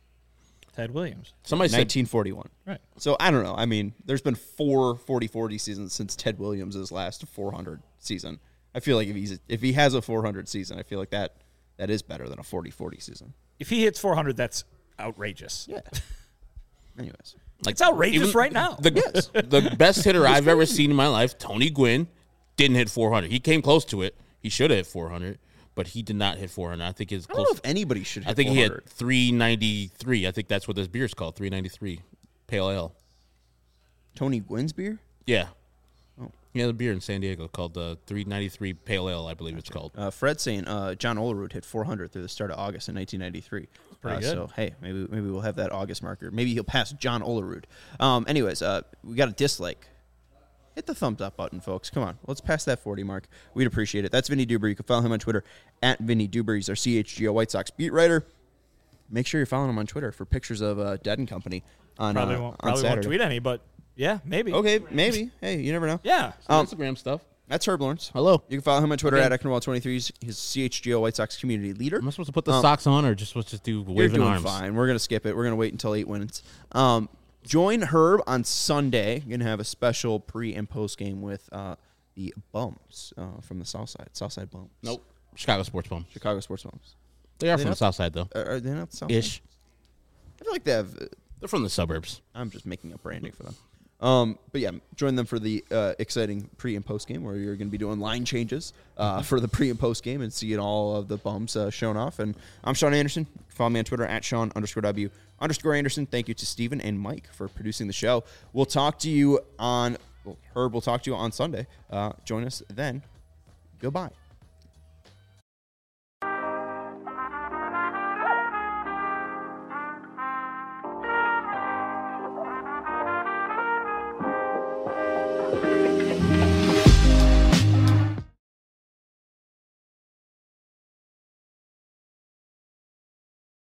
Ted Williams. Somebody said 1941. Right. So I don't know. I mean, there's been 4 40-40 seasons since Ted Williams' last 400 season. I feel like if he has a 400 season, I feel like that is better than a 40-40 season. If he hits 400, that's outrageous. Yeah. Anyways, It's outrageous right now. The best hitter I've ever seen in my life, Tony Gwynn, didn't hit 400. He came close to it. He should have hit 400, but he did not hit 400. I think I don't know if anybody should hit 400. he hit 393. I think that's what this beer is called, 393 Pale Ale. Tony Gwynn's beer? Yeah. Yeah, the beer in San Diego called the 393 Pale Ale, I believe it's called. Fred's saying John Olerud hit 400 through the start of August in 1993. Pretty good. So, hey, maybe we'll have that August marker. Maybe he'll pass John Olerud. Anyways, we got a dislike. Hit the thumbs up button, folks. Come on. Let's pass that 40 mark. We'd appreciate it. That's Vinny Duber. You can follow him on Twitter at Vinny Duber. He's our CHGO White Sox beat writer. Make sure you're following him on Twitter for pictures of Dead and Company on Probably won't Saturday. tweet any, but yeah, maybe. Okay, maybe. Hey, you never know. Yeah. Instagram stuff. That's Herb Lawrence. Hello. You can follow him on Twitter Okay. at Ecknerwall23. He's his CHGO White Sox community leader. Am I supposed to put the socks on or just do You're waving doing arms? fine. We're going to skip it. We're going to wait until 8 wins. Join Herb on Sunday. Going to have a special pre- and post-game with the Bums from the South Side. Southside Bums. Nope. Chicago Sports Bum. Chicago Sports Bums. They are They from the not- South Side, though. Are they not the South Ish. Side? I feel like they have... They're from the suburbs. I'm just making up branding for them. But yeah, join them for the exciting pre- and post-game where you're going to be doing line changes for the pre- and post-game and seeing all of the bums shown off. And I'm Sean Anderson. Follow me on Twitter at Sean_W_Anderson. Thank you to Steven and Mike for producing the show. We'll talk to you on... Herb will talk to you on Sunday. Join us then. Goodbye.